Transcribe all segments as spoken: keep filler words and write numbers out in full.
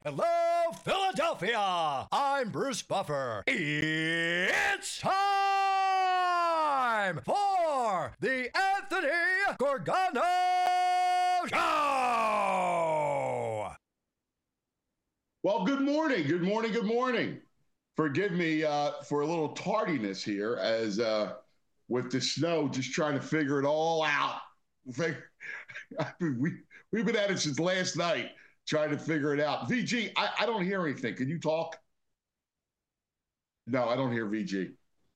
Hello, Philadelphia! I'm Bruce Buffer. It's time for the Anthony Gorgano Show! Well, good morning, good morning, good morning. Forgive me uh, for a little tardiness here as uh, with the snow, just trying to figure it all out. we, we've been at it since last night. Trying to figure it out. V G, I, I don't hear anything. Can you talk? No, I don't hear V G.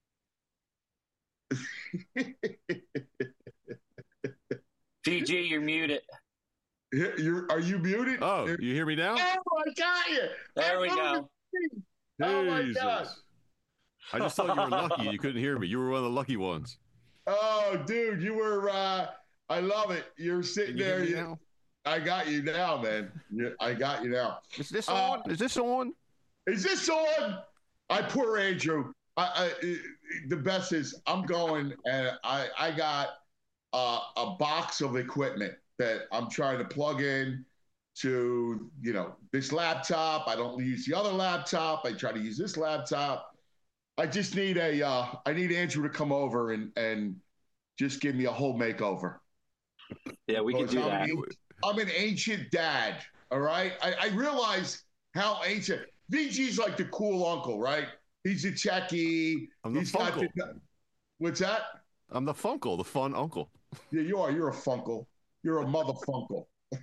V G, you're muted. You're, are you muted? Oh, you hear me now? Oh, I got you. There we go. Oh, my Jesus. God. I just thought you were lucky. You couldn't hear me. You were one of the lucky ones. Oh, dude, you were, uh, I love it. You're sitting Can you hear there. me You, now? I got you now, man. I got you now. Is this Uh, on? Is this on? Is this on? I poor Andrew. I, I the best is I'm going and I I got uh, a box of equipment that I'm trying to plug in to you know this laptop. I don't use the other laptop. I try to use this laptop. I just need a uh, I need Andrew to come over and and just give me a whole makeover. Yeah, we can Because do I'm that. an- I'm an ancient dad, all right? I, I realize how ancient. V G's like the cool uncle, right? He's a techie. I'm the He's got funkle. the, what's that? I'm the Funkle, the fun uncle. Yeah, you are. You're a funkle. You're a mother funkle.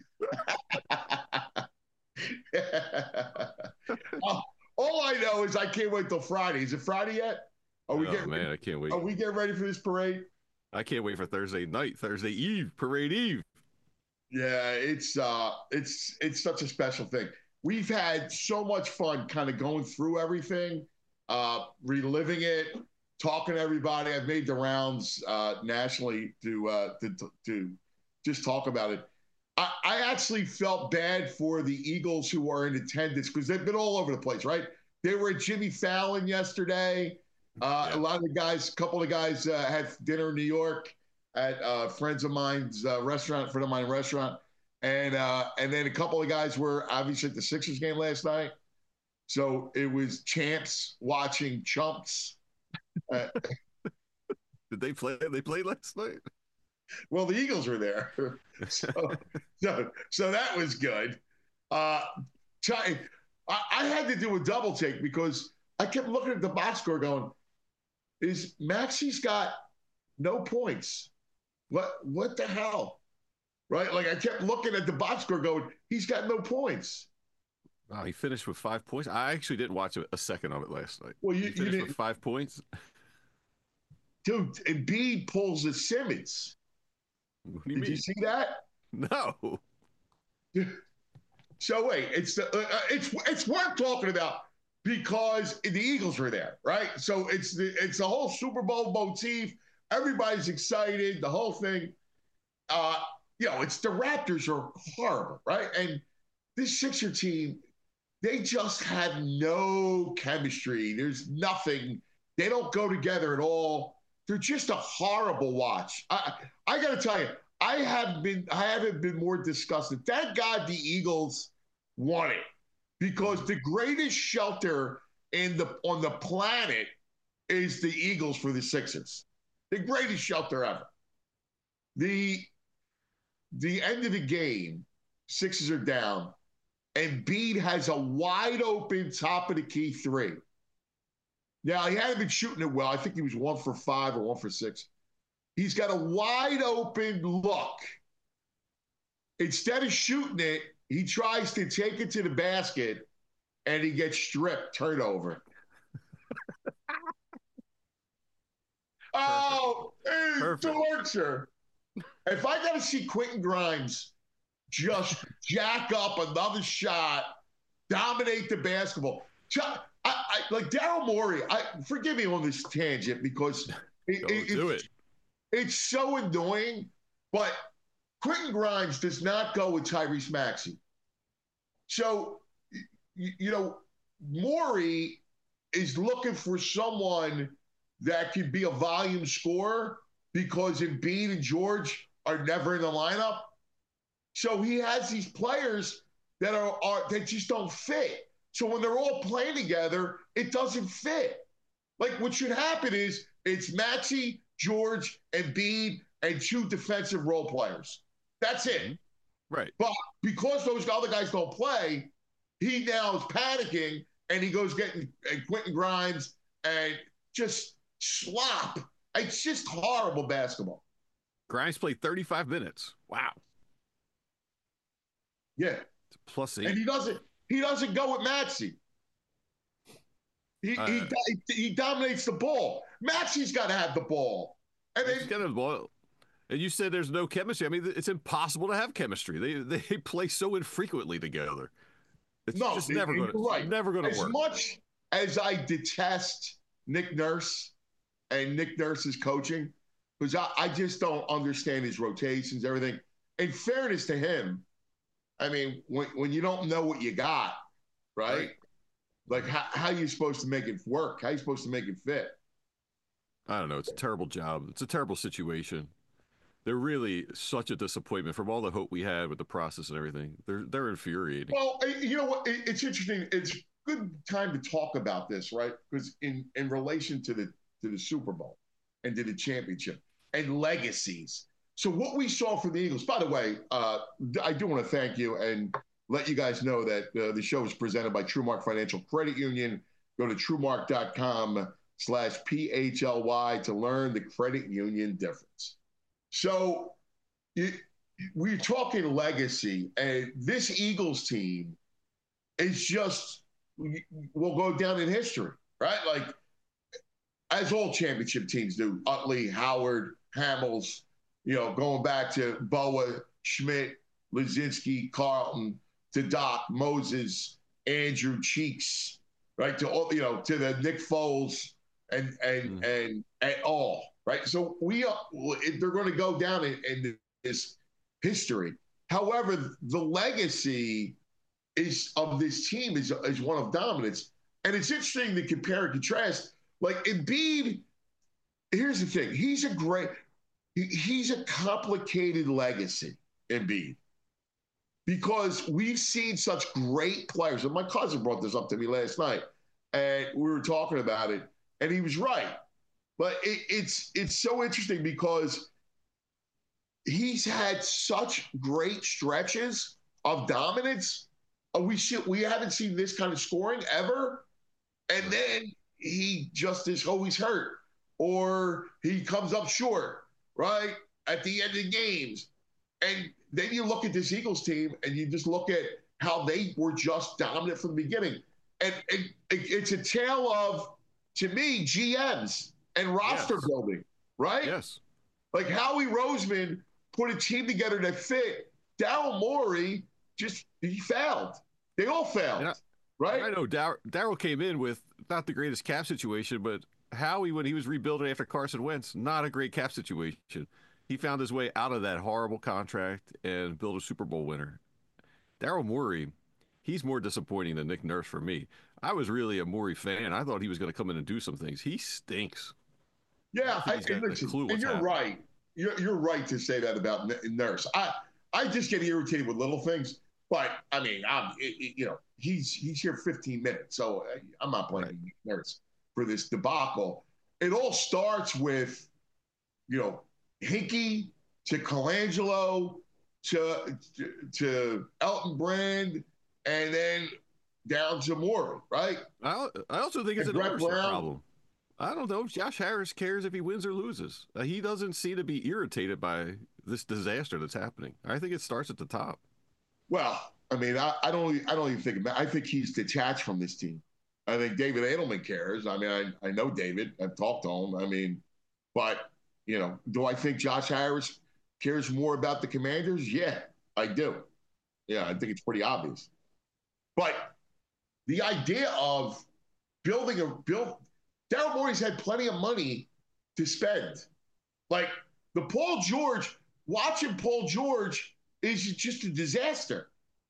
Uh, all I know is I can't wait till Friday. Is it Friday yet? Are we Oh, getting man, I can't wait. Are we getting ready for this parade? I can't wait for Thursday night, Thursday Eve, Parade Eve. Yeah, it's uh it's it's such a special thing. We've had so much fun kind of going through everything, uh reliving it, talking to everybody. I've made the rounds uh nationally to uh to to, to just talk about it. I, I actually felt bad for the Eagles who are in attendance because they've been all over the place, right? They were at Jimmy Fallon yesterday. Uh, Yeah. A lot of the guys, a couple of the guys uh, had dinner in New York at uh, friends of mine's uh, restaurant, friend of mine restaurant, and uh, and then a couple of guys were obviously at the Sixers game last night. So it was champs watching chumps. Uh, Did they play? They played last night? well, the Eagles were there, so so, so that was good. Uh, try, I, I had to do a double take because I kept looking at the box score, going, "Is Maxi's got no points? What what the hell?" Right? Like I kept looking at the box score going, he's got no points. Wow, he finished with five points. I actually didn't watch a, a second of it last night. Well, He you, you finished didn't, with five points. dude, Embiid pulls the Simmons. What do you Did mean? you see that? No. So wait, it's the, uh, uh, it's it's worth talking about because the Eagles were there, right? So it's the it's the whole Super Bowl motif. Everybody's excited, the whole thing. Uh, you know, it's the Raptors are horrible, right? And this Sixer team, they just have no chemistry. There's nothing. They don't go together at all. They're just a horrible watch. I I got to tell you, I have been I haven't been more disgusted. Thank God the Eagles won it because the greatest shelter in the on the planet is the Eagles for the Sixers. The greatest shelter ever. The the end of the game, Sixers are down. And Embiid has a wide open top of the key three. Now, he hadn't been shooting it well. I think he was one for five or one for six. He's got a wide open look. Instead of shooting it, he tries to take it to the basket and he gets stripped, turnover. Oh, it's Perfect. torture. If I got to see Quentin Grimes just jack up another shot, dominate the basketball. I, I like Daryl Morey. I forgive me on this tangent because it, Don't it, do it's, it. it's so annoying. But Quentin Grimes does not go with Tyrese Maxey. So you, you know, Morey is looking for someone that could be a volume scorer because Embiid and George are never in the lineup. So he has these players that are, are that just don't fit. So when they're all playing together, it doesn't fit. Like what should happen is it's Maxey, George, Embiid, and two defensive role players. That's it. Right. But because those other guys don't play, he now is panicking and he goes getting and Quentin Grimes and just slop. It's just horrible basketball. Grimes played thirty-five minutes. Wow. Yeah. Plus eight. And he doesn't he doesn't go with Maxey. He, uh, he, he dominates the ball. Maxey's got to have the ball. And he's got to have the ball. And you said there's no chemistry. I mean, it's impossible to have chemistry. They they play so infrequently together. It's no, just never going right. to never going to work. As much as I detest Nick Nurse and Nick Nurse's coaching, because I, I just don't understand his rotations, everything. In fairness to him, I mean, when when you don't know what you got, right? right. Like, how, how are you supposed to make it work? How are you supposed to make it fit? I don't know. It's a terrible job. It's a terrible situation. They're really such a disappointment from all the hope we had with the process and everything. They're they're infuriating. Well, you know what? It's interesting. It's a good time to talk about this, right? Because in, in relation to the to the Super Bowl and to the championship and legacies. So what we saw from the Eagles, by the way, uh, I do want to thank you and let you guys know that uh, the show is presented by TrueMark Financial Credit Union. Go to truemark.com slash P H L Y to learn the credit union difference. So it, we're talking legacy, and this Eagles team is just, will go down in history, right? Like, as all championship teams do, Utley, Howard, Hamels, you know, going back to Boa, Schmidt, Lazinski, Carlton, to Doc, Moses, Andrew, Cheeks, right? To all, you know, to the Nick Foles and and mm. and and all, right? So we are, they're going to go down in, in this history. However, the legacy is of this team is is one of dominance, and it's interesting to compare and contrast. Like Embiid, here's the thing: he's a great, he, he's a complicated legacy, Embiid. Because we've seen such great players. And my cousin brought this up to me last night, and we were talking about it, and he was right. But it, it's it's so interesting because he's had such great stretches of dominance. We should, we haven't seen this kind of scoring ever. And then he just is always hurt, or he comes up short, right, at the end of the games. And then you look at this Eagles team and you just look at how they were just dominant from the beginning. And, and it's a tale of, to me, G Ms and roster yes. building, right? Yes. Like Howie Roseman put a team together that fit. Daryl Morey just, he failed. They all failed, I, right? I know Daryl came in with not the greatest cap situation, but Howie, when he was rebuilding after Carson Wentz, not a great cap situation. He found his way out of that horrible contract and built a Super Bowl winner. Daryl Morey, he's more disappointing than Nick Nurse for me. I was really a Morey fan. I thought he was going to come in and do some things. He stinks. Yeah, I, I listen, and you're happening. right. You're, you're right to say that about Nurse. I I just get irritated with little things. But, I mean, I'm, it, it, you know, he's he's here fifteen minutes, so I'm not blaming right. Nurse for this debacle. It all starts with, you know, Hinkie to Colangelo to, to to Elton Brand, and then down to Morey, right? I I also think it's an ownership problem. I don't know if Josh Harris cares if he wins or loses. Uh, he doesn't seem to be irritated by this disaster that's happening. I think it starts at the top. Well, I mean, I, I don't I don't even think about. I think he's detached from this team. I think David Edelman cares. I mean, I I know David. I've talked to him. I mean, but. You know, do I think Josh Harris cares more about the Commanders? Yeah, I do. Yeah, I think it's pretty obvious. But the idea of building a build, Daryl Morey's had plenty of money to spend. Like the Paul George, watching Paul George is just a disaster.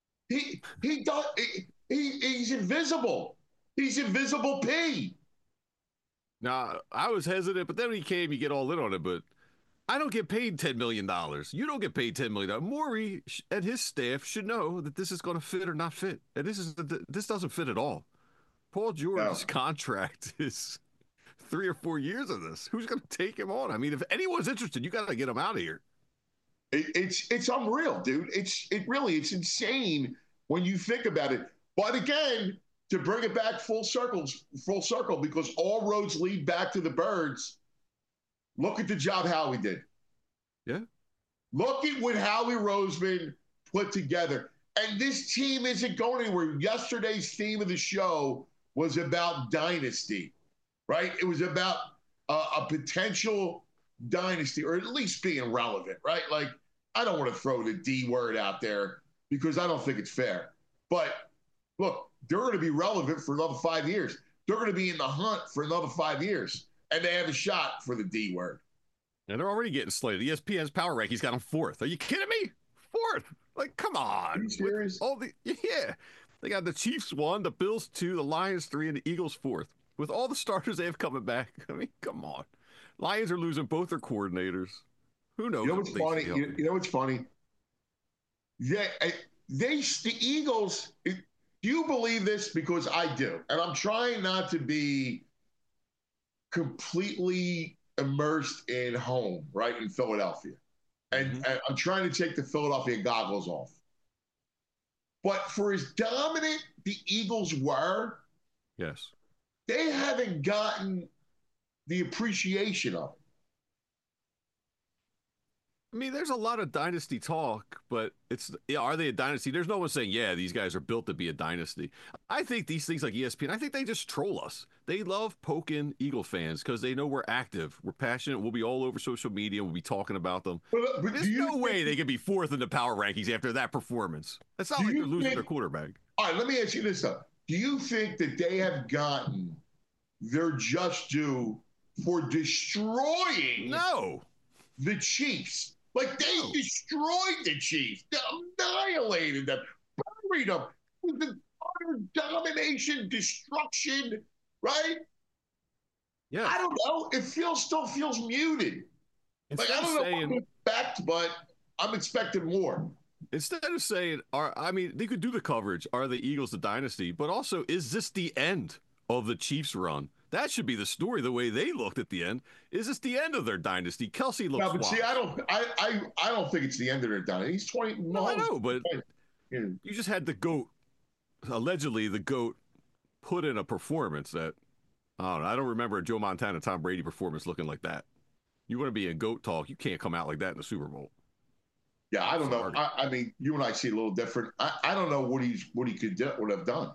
He he does he, he he's invisible. He's invisible P. Now, I was hesitant, but then when he came, you get all in on it. But I don't get paid ten million dollars. You don't get paid ten million dollars. Maury and his staff should know that this is going to fit or not fit. And this is this doesn't fit at all. Paul George's No. contract is three or four years of this. Who's going to take him on? I mean, if anyone's interested, you got to get him out of here. It, it's it's unreal, dude. It's it really it's insane when you think about it. But again, to bring it back full circles, full circle, because all roads lead back to the Birds. Look at the job Howie did. Yeah. Look at what Howie Roseman put together. And this team isn't going anywhere. Yesterday's theme of the show was about dynasty, right? It was about uh, a potential dynasty, or at least being relevant, right? Like, I don't want to throw the D word out there because I don't think it's fair. But look, they're going to be relevant for another five years. They're going to be in the hunt for another five years. And they have a shot for the D word. And they're already getting slated. E S P N's Power Rankings got them fourth. Are you kidding me? Fourth? Like, come on. Are you serious? All the yeah, they got the Chiefs one, the Bills two, the Lions three, and the Eagles fourth. With all the starters they have coming back, I mean, come on. Lions are losing both their coordinators. Who knows? You know what's if they funny? feel- You, you know what's funny? Yeah, they, they the Eagles. Do you believe this? Because I do, and I'm trying not to be completely immersed in home, right, in Philadelphia. And, Mhm. and I'm trying to take the Philadelphia goggles off. But for as dominant the Eagles were, Yes. they haven't gotten the appreciation of it. I mean, there's a lot of dynasty talk, but it's yeah, are they a dynasty? There's no one saying, yeah, these guys are built to be a dynasty. I think these things like E S P N, I think they just troll us. They love poking Eagle fans because they know we're active, we're passionate, we'll be all over social media, we'll be talking about them. But, but There's do you no think- way they could be fourth in the power rankings after that performance. It's not Do like you they're losing think- their quarterback. All right, let me ask you this though. Do you think that they have gotten their just due for destroying No. the Chiefs? Like, they No. destroyed the Chiefs, they annihilated them, buried them with the utter domination, destruction, right? Yeah. I don't know. It feels still feels muted. Like, Instead I of don't know saying, what to expect, but I'm expecting more. instead of saying, are I mean, they could do the coverage. Are the Eagles the dynasty? But also, is this the end of the Chiefs' run? That should be the story. The way they looked at the end, is this the end of their dynasty? Kelsey looks. No, but see, washed. I don't, I, I, I don't think it's the end of their dynasty. He's twenty. No, I Mahomes- know, but Yeah. you just had the GOAT, allegedly the GOAT, put in a performance that, I don't know, I don't remember a Joe Montana, Tom Brady performance looking like that. You want to be in GOAT talk, you can't come out like that in the Super Bowl. Yeah, I don't know. Sorry. I, I mean, you and I see it a little different. I, I don't know what he's what he could do, would have done.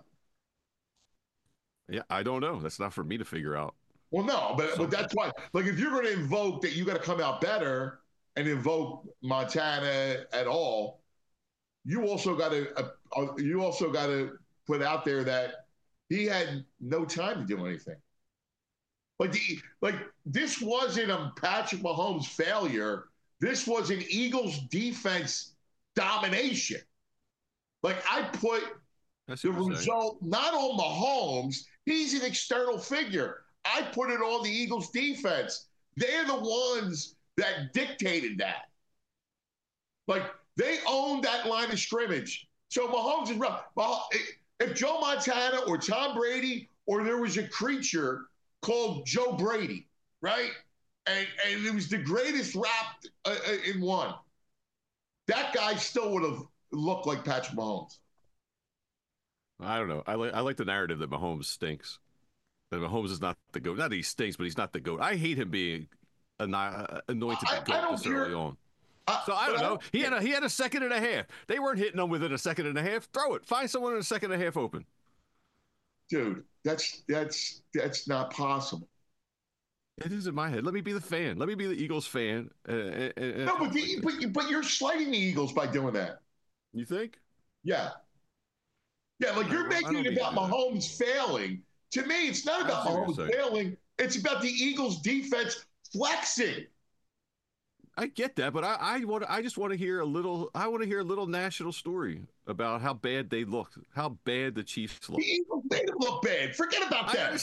Yeah, I don't know. That's not for me to figure out. Well, no, but but that's why. Like, if you're going to invoke that, you got to come out better and invoke Montana at all. You also got to uh, uh, you also got to put out there that he had no time to do anything. Like the like this wasn't a Patrick Mahomes failure. This was an Eagles defense domination. Like, I put That's the what you're saying. result not on Mahomes. He's an external figure. I put it on the Eagles defense. They're the ones that dictated that. Like, they owned that line of scrimmage. So Mahomes is rough. Well, if Joe Montana or Tom Brady, or there was a creature called Joe Brady, right? And, and it was the greatest rap uh, uh, in one. That guy still would have looked like Patrick Mahomes. I don't know. I like I like the narrative that Mahomes stinks. That Mahomes is not the GOAT. Not that he stinks, but he's not the GOAT. I hate him being anno- anointed I- the I GOAT don't this early care. on. Uh, So I but don't know. He had a he had a second and a half. They weren't hitting him within a second and a half. Throw it. Find someone in a second and a half open. Dude, that's that's that's not possible. It is in my head. Let me be the fan. Let me be the Eagles fan. Uh, and, and No, talk but, the, like but this. you- but you're slighting the Eagles by doing that. You think? Yeah. Yeah, like, No, you're well, I making don't it need to about do that. Mahomes failing. To me, it's not about I see what Mahomes you're saying. failing. It's about the Eagles defense flexing. I get that, but I, I want I just want to hear a little. I want to hear a little national story about how bad they looked, how bad the Chiefs The looked. Eagles made them look bad. Forget about I that. understand.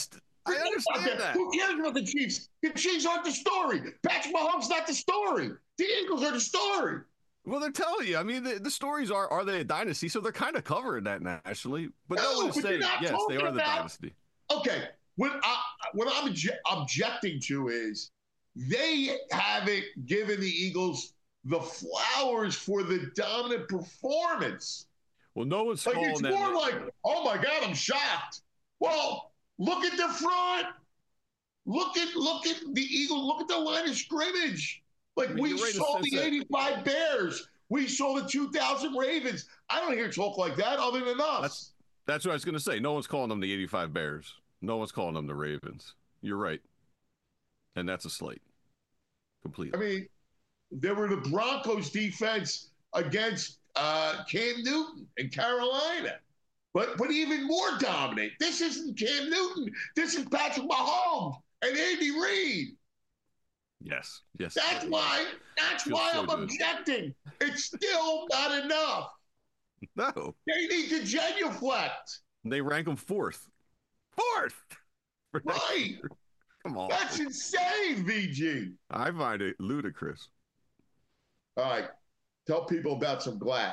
I understand that. Who cares about the Chiefs? The Chiefs aren't the story. Patrick Mahomes not the story. The Eagles are the story. Well, they're telling you. I mean, the, the stories are are they a dynasty? So they're kind of covering that nationally. But no, No, one is but you're saying not yes, they talking are the about- dynasty. Okay, what I what I'm obje- objecting to is they haven't given the Eagles the flowers for the dominant performance. Well, no one's Like calling it's them. more like, oh my God, I'm shocked. Well, look at the front. Look at look at the Eagles. Look at the line of scrimmage. Like I mean, we you're right in the saw sense the that- eighty-five Bears. We saw the two thousand Ravens. I don't hear talk like that other than us. That's that's what I was going to say. No one's calling them the eighty-five Bears. No one's calling them the Ravens. You're right, and that's a slate. Completely. I mean, there were the Broncos defense against uh, Cam Newton in Carolina, but but even more dominant. This isn't Cam Newton. This is Patrick Mahomes and Andy Reid. Yes. Yes. That's why. That's Feels why so I'm good. objecting. It's still not enough. No. They need to genuflect. They rank them fourth. Fourth. For next Right. year. Come on. That's insane, V G. I find it ludicrous. All right. Tell people about some Glatt.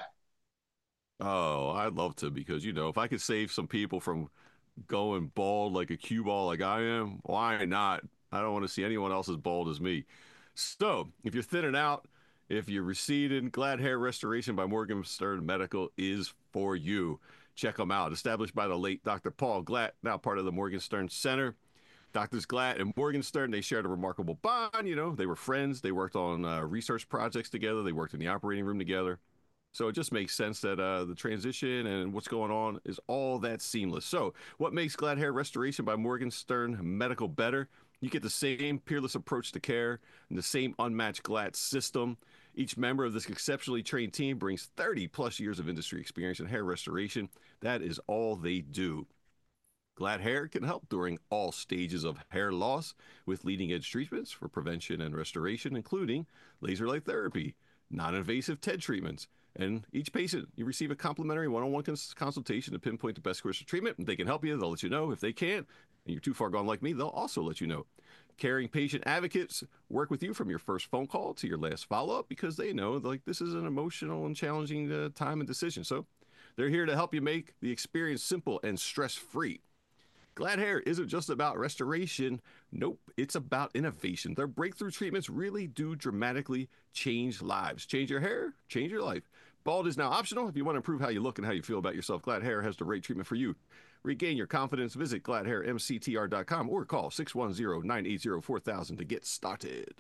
Oh, I'd love to because, you know, if I could save some people from going bald like a cue ball like I am, why not? I don't want to see anyone else as bald as me. So, if you're thinning out, if you're receding, Glad Hair Restoration by Morgenstern Medical is for you. Check them out. Established by the late Doctor Paul Glatt, now part of the Morgenstern Center. Doctors Glatt and Morgenstern, they shared a remarkable bond. You know, they were friends. They worked on uh, research projects together. They worked in the operating room together. So it just makes sense that uh, the transition and what's going on is all that seamless. So what makes Glad Hair Restoration by Morgenstern Medical better? You get the same peerless approach to care and the same unmatched Glatt system. Each member of this exceptionally trained team brings thirty plus years of industry experience in hair restoration. That is all they do. Glad Hair can help during all stages of hair loss with leading-edge treatments for prevention and restoration, including laser light therapy, non-invasive T E D treatments, and each patient, you receive a complimentary one-on-one cons- consultation to pinpoint the best course of treatment. They can help you. They'll let you know. If they can't, and you're too far gone like me, they'll also let you know. Caring patient advocates work with you from your first phone call to your last follow-up because they know like this is an emotional and challenging uh, time and decision. So they're here to help you make the experience simple and stress-free. Glad Hair isn't just about restoration. Nope, it's about innovation. Their breakthrough treatments really do dramatically change lives. Change your hair, change your life. Bald is now optional. If you want to improve how you look and how you feel about yourself, Glad Hair has the right treatment for you. Regain your confidence. Visit glad hair m c t r dot com or call six one zero, nine eight zero, four thousand to get started.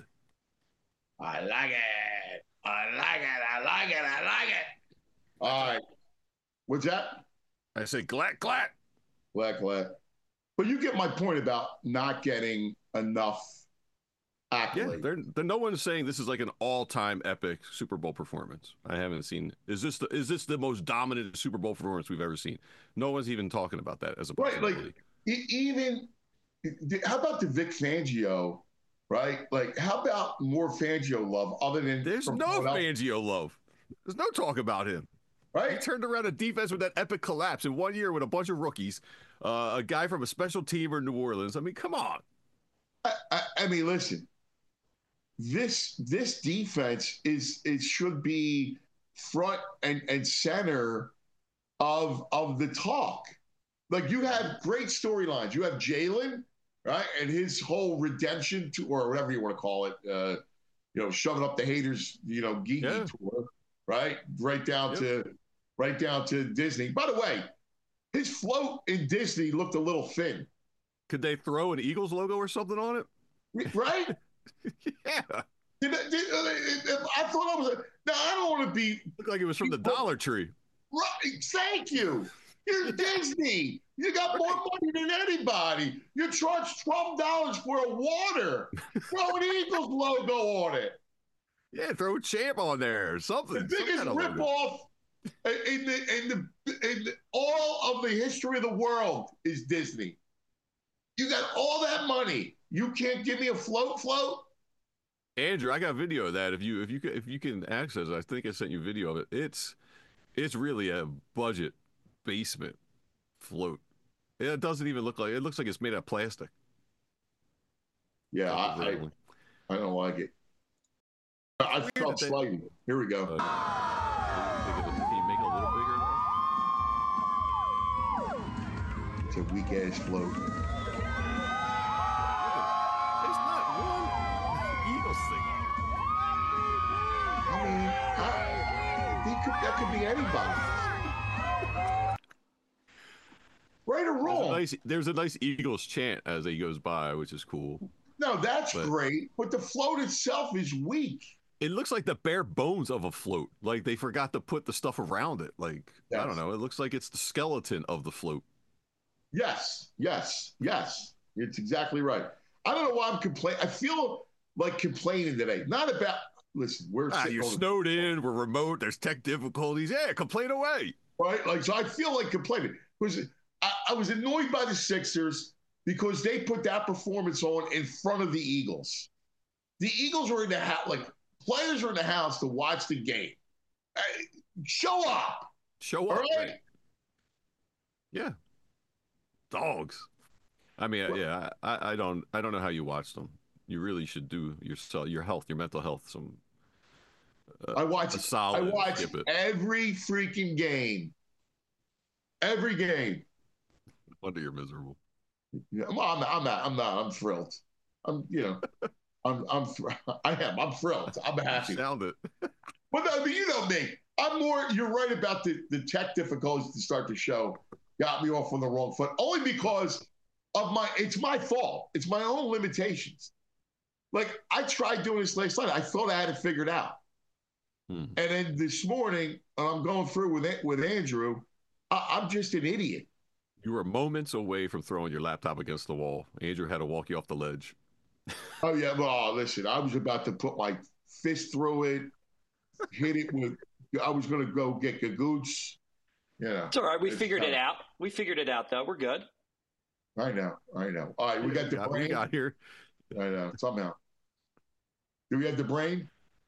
I like it. I like it. I like it. I like it. All right. What's that? I said, Glat, Glat. Black, black. But you get my point about not getting enough Yeah, accolades. they're, they're, no one's saying this is like an all-time epic Super Bowl performance. I haven't seen. Is this the, is this the most dominant Super Bowl performance we've ever seen? No one's even talking about that as a Right, like possibility. e- even how about the Vic Fangio, right? Like, how about more Fangio love other than There's from no Philadelphia, Fangio love. There's no talk about him. He right? turned around a defense with that epic collapse in one year with a bunch of rookies, uh, a guy from a special team or New Orleans. I mean, come on. I, I, I mean, listen, this this defense is it should be front and, and center of of the talk. Like you have great storylines. You have Jalen, right, and his whole redemption tour, or whatever you want to call it. Uh, you know, shoving up the haters, you know, geeky Yeah. tour, right, right down Yep. to right down to Disney. By the way, his float in Disney looked a little thin, Could they throw an Eagles logo or something on it? right? Yeah. Did, did, uh, I thought I was. A, now I don't want to be. Looked like it was from the Dollar Tree. Right, thank you. You're Disney. You got more money than anybody. You charge twelve dollars for a water. Throw an Eagles logo on it. Yeah, throw a champ on there or something. The some biggest kind of logo. ripoff in the in the in the, all of the history of the world is Disney. You got all that money. You can't give me a float float. Andrew, I got video of that. If you if you can, if you can access it, I think I sent you video of it. It's it's really a budget basement float. It doesn't even look like it looks like it's made out of plastic. Yeah, Felt I, I adrenaline. I don't like it. I Weird felt that they- slightly. Here we go. Uh, can you make it a little bigger? It's a weak ass float. There's not one Eagles thing on it. I mean, I, he could, that could be anybody. Right or There's a wrong? nice, there's a nice Eagles chant as he goes by, which is cool. No, that's But- great, but the float itself is weak. It looks like the bare bones of a float. Like they forgot to put the stuff around it. Like I Yes. don't know. It looks like it's the skeleton of the float. Yes, yes, yes. It's exactly right. I don't know why I'm complaining. I feel like complaining today. Not about, listen, we're Ah, sitting you're on the- snowed in. We're remote. There's tech difficulties. Yeah, complain away. right? Like, so I feel like complaining because I, I was annoyed by the Sixers because they put that performance on in front of the Eagles. The Eagles were in the house, like players were in the house to watch the game. Uh, show up, Show all up. right? man. Yeah. Dogs. I mean, Well- yeah. I, I don't. I don't know how you watch them. You really should do yourself, your health, your mental health, some I watch. a solid. I watch skip it. every freaking game. Every game. Wonder you're miserable. Yeah, well, I'm, I'm not. I'm not. I'm thrilled. I'm, you know, I'm, I'm, thr- I am. I'm thrilled. I'm happy. You sound it. But no, but you know me. I'm more. You're right about the the tech difficulties to start the show. Got me off on the wrong foot. Only because of my. It's my fault. It's my own limitations. Like I tried doing this last night. I thought I had it figured out. Hmm. And then this morning, I'm going through with it, with Andrew. I, I'm just an idiot. You were moments away from throwing your laptop against the wall. Andrew had to walk you off the ledge. Oh yeah. Well, listen. I was about to put my fist through it, hit it with. I was going to go get Gagoots. Yeah. It's all right. We It's figured it tough. out. We figured it out, though. We're good. I know. I know. All right. We got the Got- we brain. got here. I know. Somehow. Do we have the brain?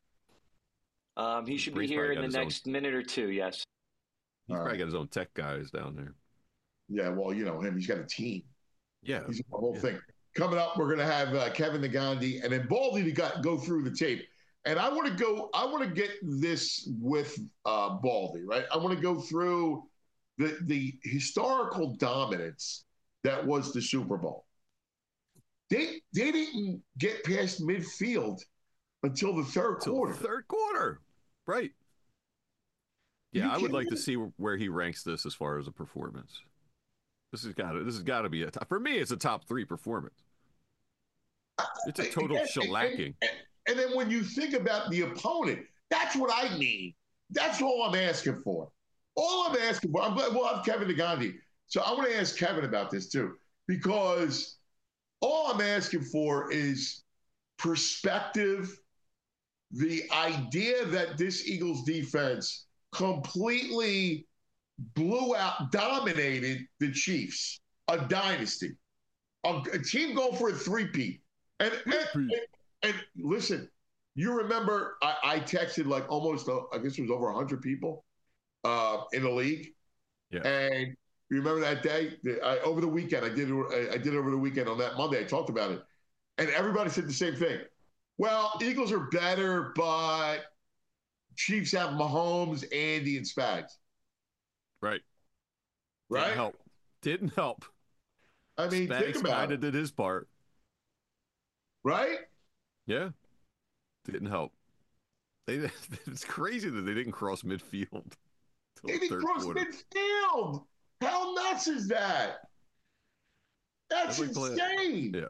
Um, he should be Bree's here probably in got the his own- next minute or two. Yes. He's All probably right. got his own tech guys down there. Yeah. Well, you know him. He's got a team. Yeah. He's got the whole Yeah. thing. Coming up, we're going to have uh, Kevin Nagandi and then Baldy to got, go through the tape. And I want to go, I want to get this with uh, Baldy, right? I want to go through the, the historical dominance that was the Super Bowl. They, they didn't get past midfield until the third Till quarter. Third quarter. Right. You Yeah, I would kidding like to me? see where he ranks this as far as a performance. This has got to. This has got to be a top, for me. It's a top three performance. It's a total Again, shellacking. And, and then when you think about the opponent, that's what I mean. That's all I'm asking for. All I'm asking for. I'm glad we'll have Kevin Nagandi. So I want to ask Kevin about this too, because all I'm asking for is perspective. The idea that this Eagles defense completely blew out, dominated the Chiefs, a dynasty, a, a team going for a three-peat. And, and, and, and listen, you remember I, I texted like almost, uh, I guess it was over one hundred people uh, in the league. Yeah. And you remember that day? I, over the weekend, I did, it, I did it over the weekend on that Monday. I talked about it. And everybody said the same thing. Well, Eagles are better, but Chiefs have Mahomes, Andy, and Spags. Right. Right? Didn't help. Didn't help. I mean, think Spags about kind it. of did his part. Right? Yeah. Didn't help. They. It's crazy that they didn't cross midfield. till They the didn't third cross quarter. midfield. How nuts is that? That's That's like play- insane. Yeah.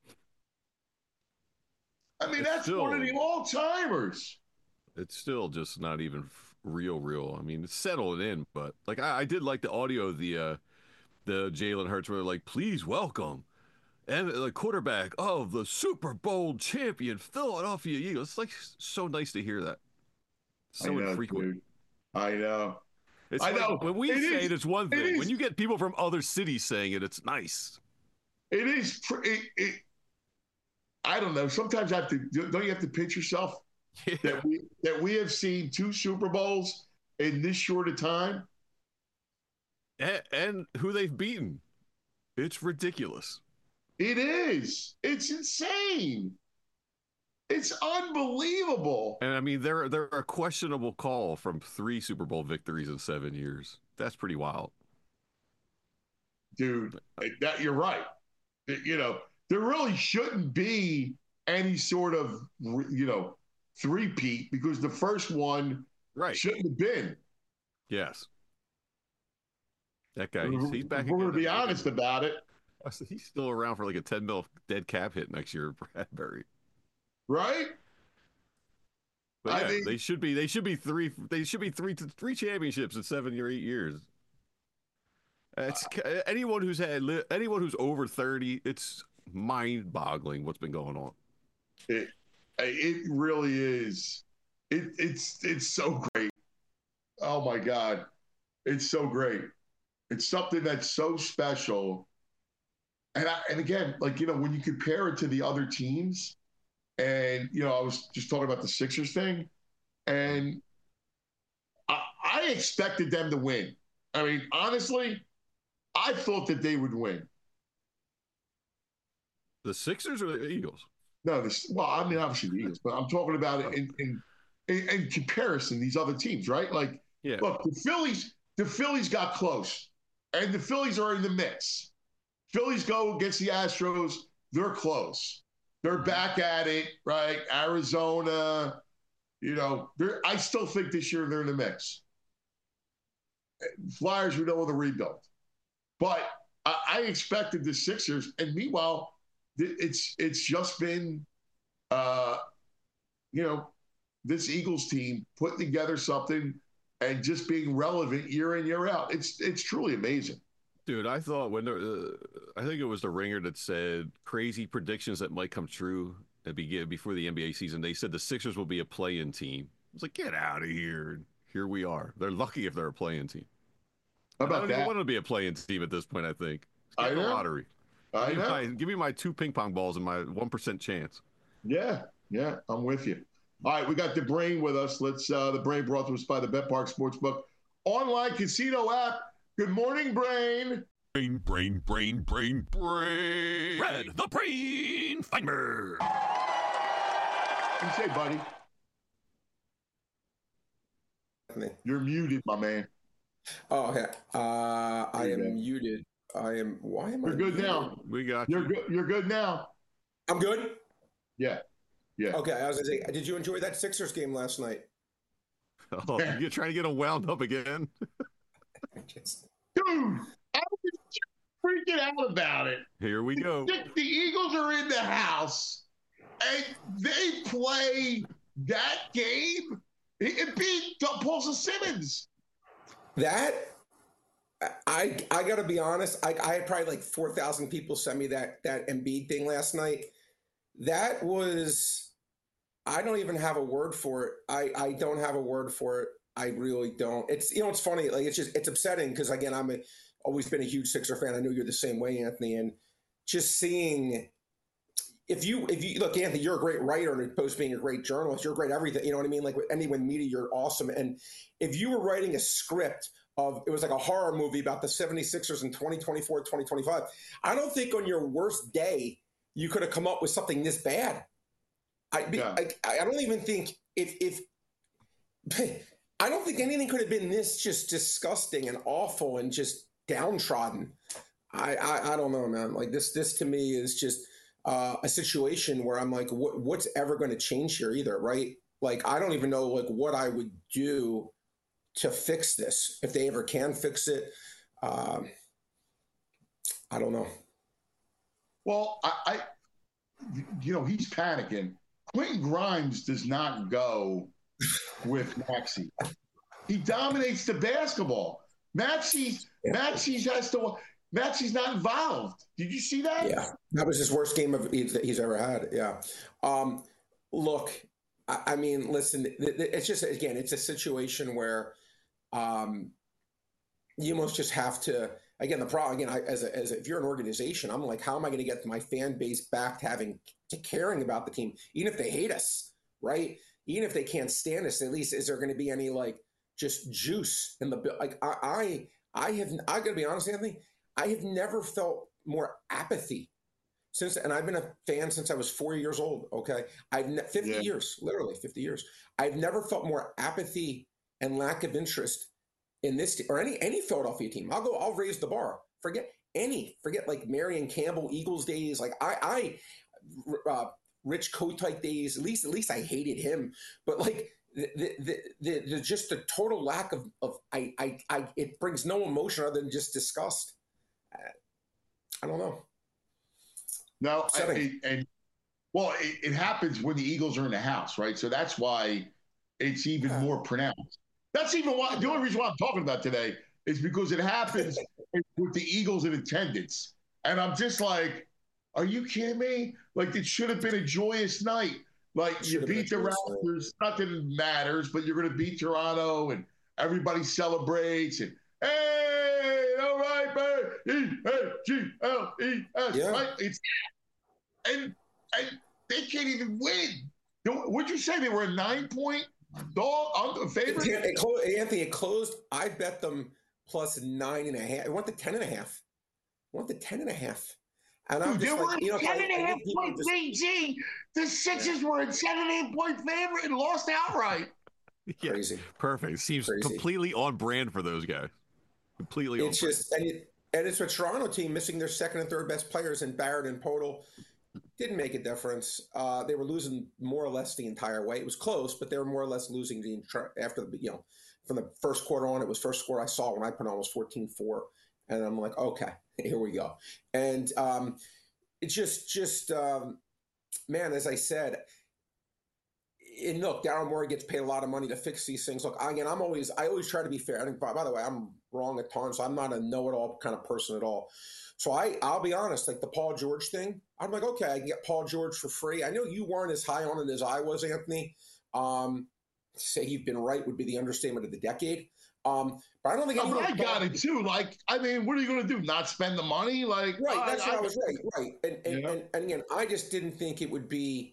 I mean, It's that's one of still- the all timers. It's still just not even f- real, real. I mean, it's settled in, but like I, I did like the audio of the uh, the Jalen Hurts where they're like, "Please welcome," and the quarterback of the Super Bowl champion Philadelphia Eagles. It's like so nice to hear that. So I know, infrequent. dude. I know. It's I like know. when we It say is. it, it's one It thing. is. When you get people from other cities saying it, it's nice. It is. Pr- it, it, I don't know. Sometimes I have to. Don't you have to pinch yourself Yeah. that we that we have seen two Super Bowls in this short a time? And, and who they've beaten. It's ridiculous. It is. It's insane. It's unbelievable. And I mean, they're they're a questionable call from three Super Bowl victories in seven years. That's pretty wild, dude. That you're right. You know, there really shouldn't be any sort of you know three-peat because the first one right shouldn't have been. Yes, that guy. He's, he's back. We're again. gonna be honest about it. He's still around for like a ten mil dead cap hit next year, Bradbury. Right? But I yeah, mean, they should be. They should be three. They should be three. Three championships in seven or eight years. It's uh, anyone who's had anyone who's over thirty. It's mind-boggling what's been going on. It it really is. It it's it's so great. Oh my God, it's so great. It's something that's so special. And I, and again, like you know, when you compare it to the other teams, and you know, I was just talking about the Sixers thing, and I, I expected them to win. I mean, honestly, I thought that they would win. The Sixers or the Eagles? No, this. Well, I mean, obviously the Eagles, but I'm talking about it in in, in, in comparison these other teams, right? Like, yeah. Look, the Phillies, the Phillies got close, and the Phillies are in the mix. Phillies go against the Astros, they're close. They're back at it, right? Arizona, you know, I still think this year they're in the mix. Flyers, we know the rebuild. But I, I expected the Sixers, and meanwhile, it's it's just been, uh, you know, this Eagles team putting together something and just being relevant year in, year out. It's it's truly amazing. Dude, I thought when there, uh, I think it was the Ringer that said crazy predictions that might come true at begin before the N B A season. They said the Sixers will be a play-in team. I was like, get out of here. Here we are. They're lucky if they're a play-in team. How about I don't that? even want to be a play-in team at this point, I think. I Get know. the lottery. I give, me know. my, give me my two ping pong balls and my one percent chance. Yeah, yeah, I'm with you. All right, we got the Brain with us. Let's. Uh, the Brain brought to us by the BetPark Sportsbook online casino app. Good morning, Brain. Brain, brain, brain, brain, brain. Red, the Brain Finder. What do you say, buddy? You're muted, my man. Oh, okay. Uh, I am go. muted. I am. Why am You're I? good muted? now. We got You're you. good. You're good now. I'm good. Yeah, yeah. Okay, I was gonna say, did you enjoy that Sixers game last night? Oh, you're trying to get them wound up again? Just... Dude, I was freaking out about it. Here we go. The, the Eagles are in the house, and they play that game. It, it beat Paulson Simmons. That I I gotta be honest. I, I had probably like four thousand people send me that that Embiid thing last night. That was. I don't even have a word for it. I, I don't have a word for it. I really don't. It's you know it's funny. Like it's just it's upsetting because again I'm a, always been a huge Sixer fan. I know you're the same way, Anthony. And just seeing if you if you look, Anthony, you're a great writer and opposed to being a great journalist. You're great everything. You know what I mean? Like with anyone media, you're awesome. And if you were writing a script of it was like a horror movie about the seventy-sixers in twenty twenty-four, twenty twenty-five, I don't think on your worst day you could have come up with something this bad. I, yeah. I I don't even think if if I don't think anything could have been this just disgusting and awful and just downtrodden. I I, I don't know, man. Like this this to me is just uh, a situation where I'm like, what what's ever going to change here either, right? Like I don't even know like what I would do to fix this if they ever can fix it. Um, I don't know. Well, I, I you know he's panicking. Quentin Grimes does not go with Maxey. He dominates the basketball. Maxey, yeah. Maxey has to. Maxey's not involved. Did you see that? Yeah, that was his worst game of that he's ever had. Yeah. Um, look, I, I mean, listen. It's just again, it's a situation where um, you almost just have to. Again, the problem. Again, I, as a, as a, if you're an organization, I'm like, how am I going to get my fan base back to having to caring about the team, even if they hate us, right? Even if they can't stand us, at least is there going to be any like just juice in the like? I I, I have I got to be honest, Anthony. I have never felt more apathy since, and I've been a fan since I was four years old. Okay, I've ne- fifty Yeah. years, literally fifty years. I've never felt more apathy and lack of interest in this te- or any any Philadelphia team. I'll go. I'll raise the bar. Forget any. Forget like Marion Campbell Eagles days. Like I, I, uh, Rich Kotite days. At least, at least I hated him. But like the the the, the just the total lack of of I I I it brings no emotion other than just disgust. I don't know. No, I, Setting. it, and well, it, it happens when the Eagles are in the house, right? So that's why it's even Yeah. more pronounced. That's even why the only reason why I'm talking about today is because it happens with the Eagles in attendance, and I'm just like, are you kidding me? Like it should have been a joyous night. Like It you should have been beat a the joyous night. Raptors, nothing matters, but you're going to beat Toronto, and everybody celebrates and. Hey, all right, man. E A G L E S. Yeah. Right? It's and and they can't even win. Would you say they were a nine point dog on favorite? It, it clo- Anthony, it closed. I bet them plus nine and a half. It went to ten and a half. It went to ten and a half. And I'm Dude, they just were like, a you know, ten I- and a I half think people point just- B G. The Sixers were a ten and a half point favorite and lost outright. Yeah, crazy. perfect. Seems Crazy. completely on brand for those guys. Completely on It's brand. just and it and it's a Toronto team missing their second and third best players in Barrett and Podol. Didn't make a difference. Uh, they were losing more or less the entire way. It was close, but they were more or less losing the entire after the you know from the first quarter on. It was first score I saw when I put on was fourteen four, and I'm like, okay, here we go. And um, it just just um, man, as I said. And look, Daryl Morey gets paid a lot of money to fix these things. Look, again, I'm always, I always try to be fair. I think, by, by the way, I'm wrong at times. So I'm not a know-it-all kind of person at all. So I, I'll be honest, like the Paul George thing, I'm like, okay, I can get Paul George for free. I know you weren't as high on it as I was, Anthony. Um, say you've been right would be the understatement of the decade. Um, but I don't think Oh, but anyone I got thought- it too. Like, I mean, what are you going to do? Not spend the money? Like, Right, I- that's what I- I was right, right. And and, Yeah. and and again, I just didn't think it would be.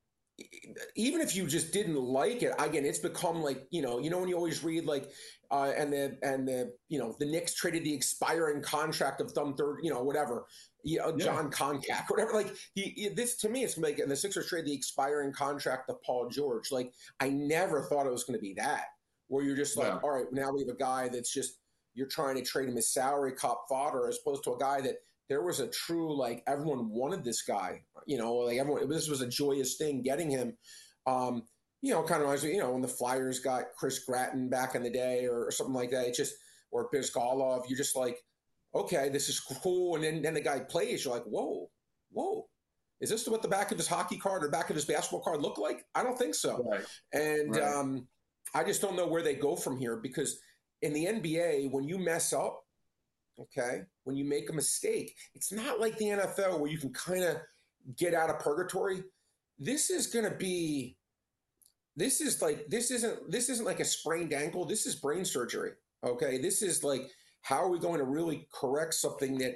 Even if you just didn't like it, again, it's become like you know, you know when you always read like, uh, and the and the you know the Knicks traded the expiring contract of some third, you know, whatever, you know, Yeah. John Koncak, whatever. Like he, he- this to me, it's like, and the Sixers trade the expiring contract of Paul George. Like I never thought it was going to be that, where you're just like, Yeah. all right, now we have a guy that's just you're trying to trade him as salary cop fodder, as opposed to a guy that. There was a true, like, everyone wanted this guy, you know, like everyone, this was a joyous thing getting him. Um, you know, kind of reminds me, you know, when the Flyers got Chris Gratton back in the day or, or something like that, it just, or Bizgalov, you're just like, okay, this is cool. And then, then the guy plays, you're like, whoa, whoa. Is this what the back of his hockey card or back of his basketball card look like? I don't think so. Right. And Right. um, I just don't know where they go from here because in the N B A, when you mess up, okay, when you make a mistake, it's not like the N F L where you can kind of get out of purgatory. This is going to be, this is like, this isn't, this isn't like a sprained ankle. This is brain surgery. Okay. This is like, how are we going to really correct something that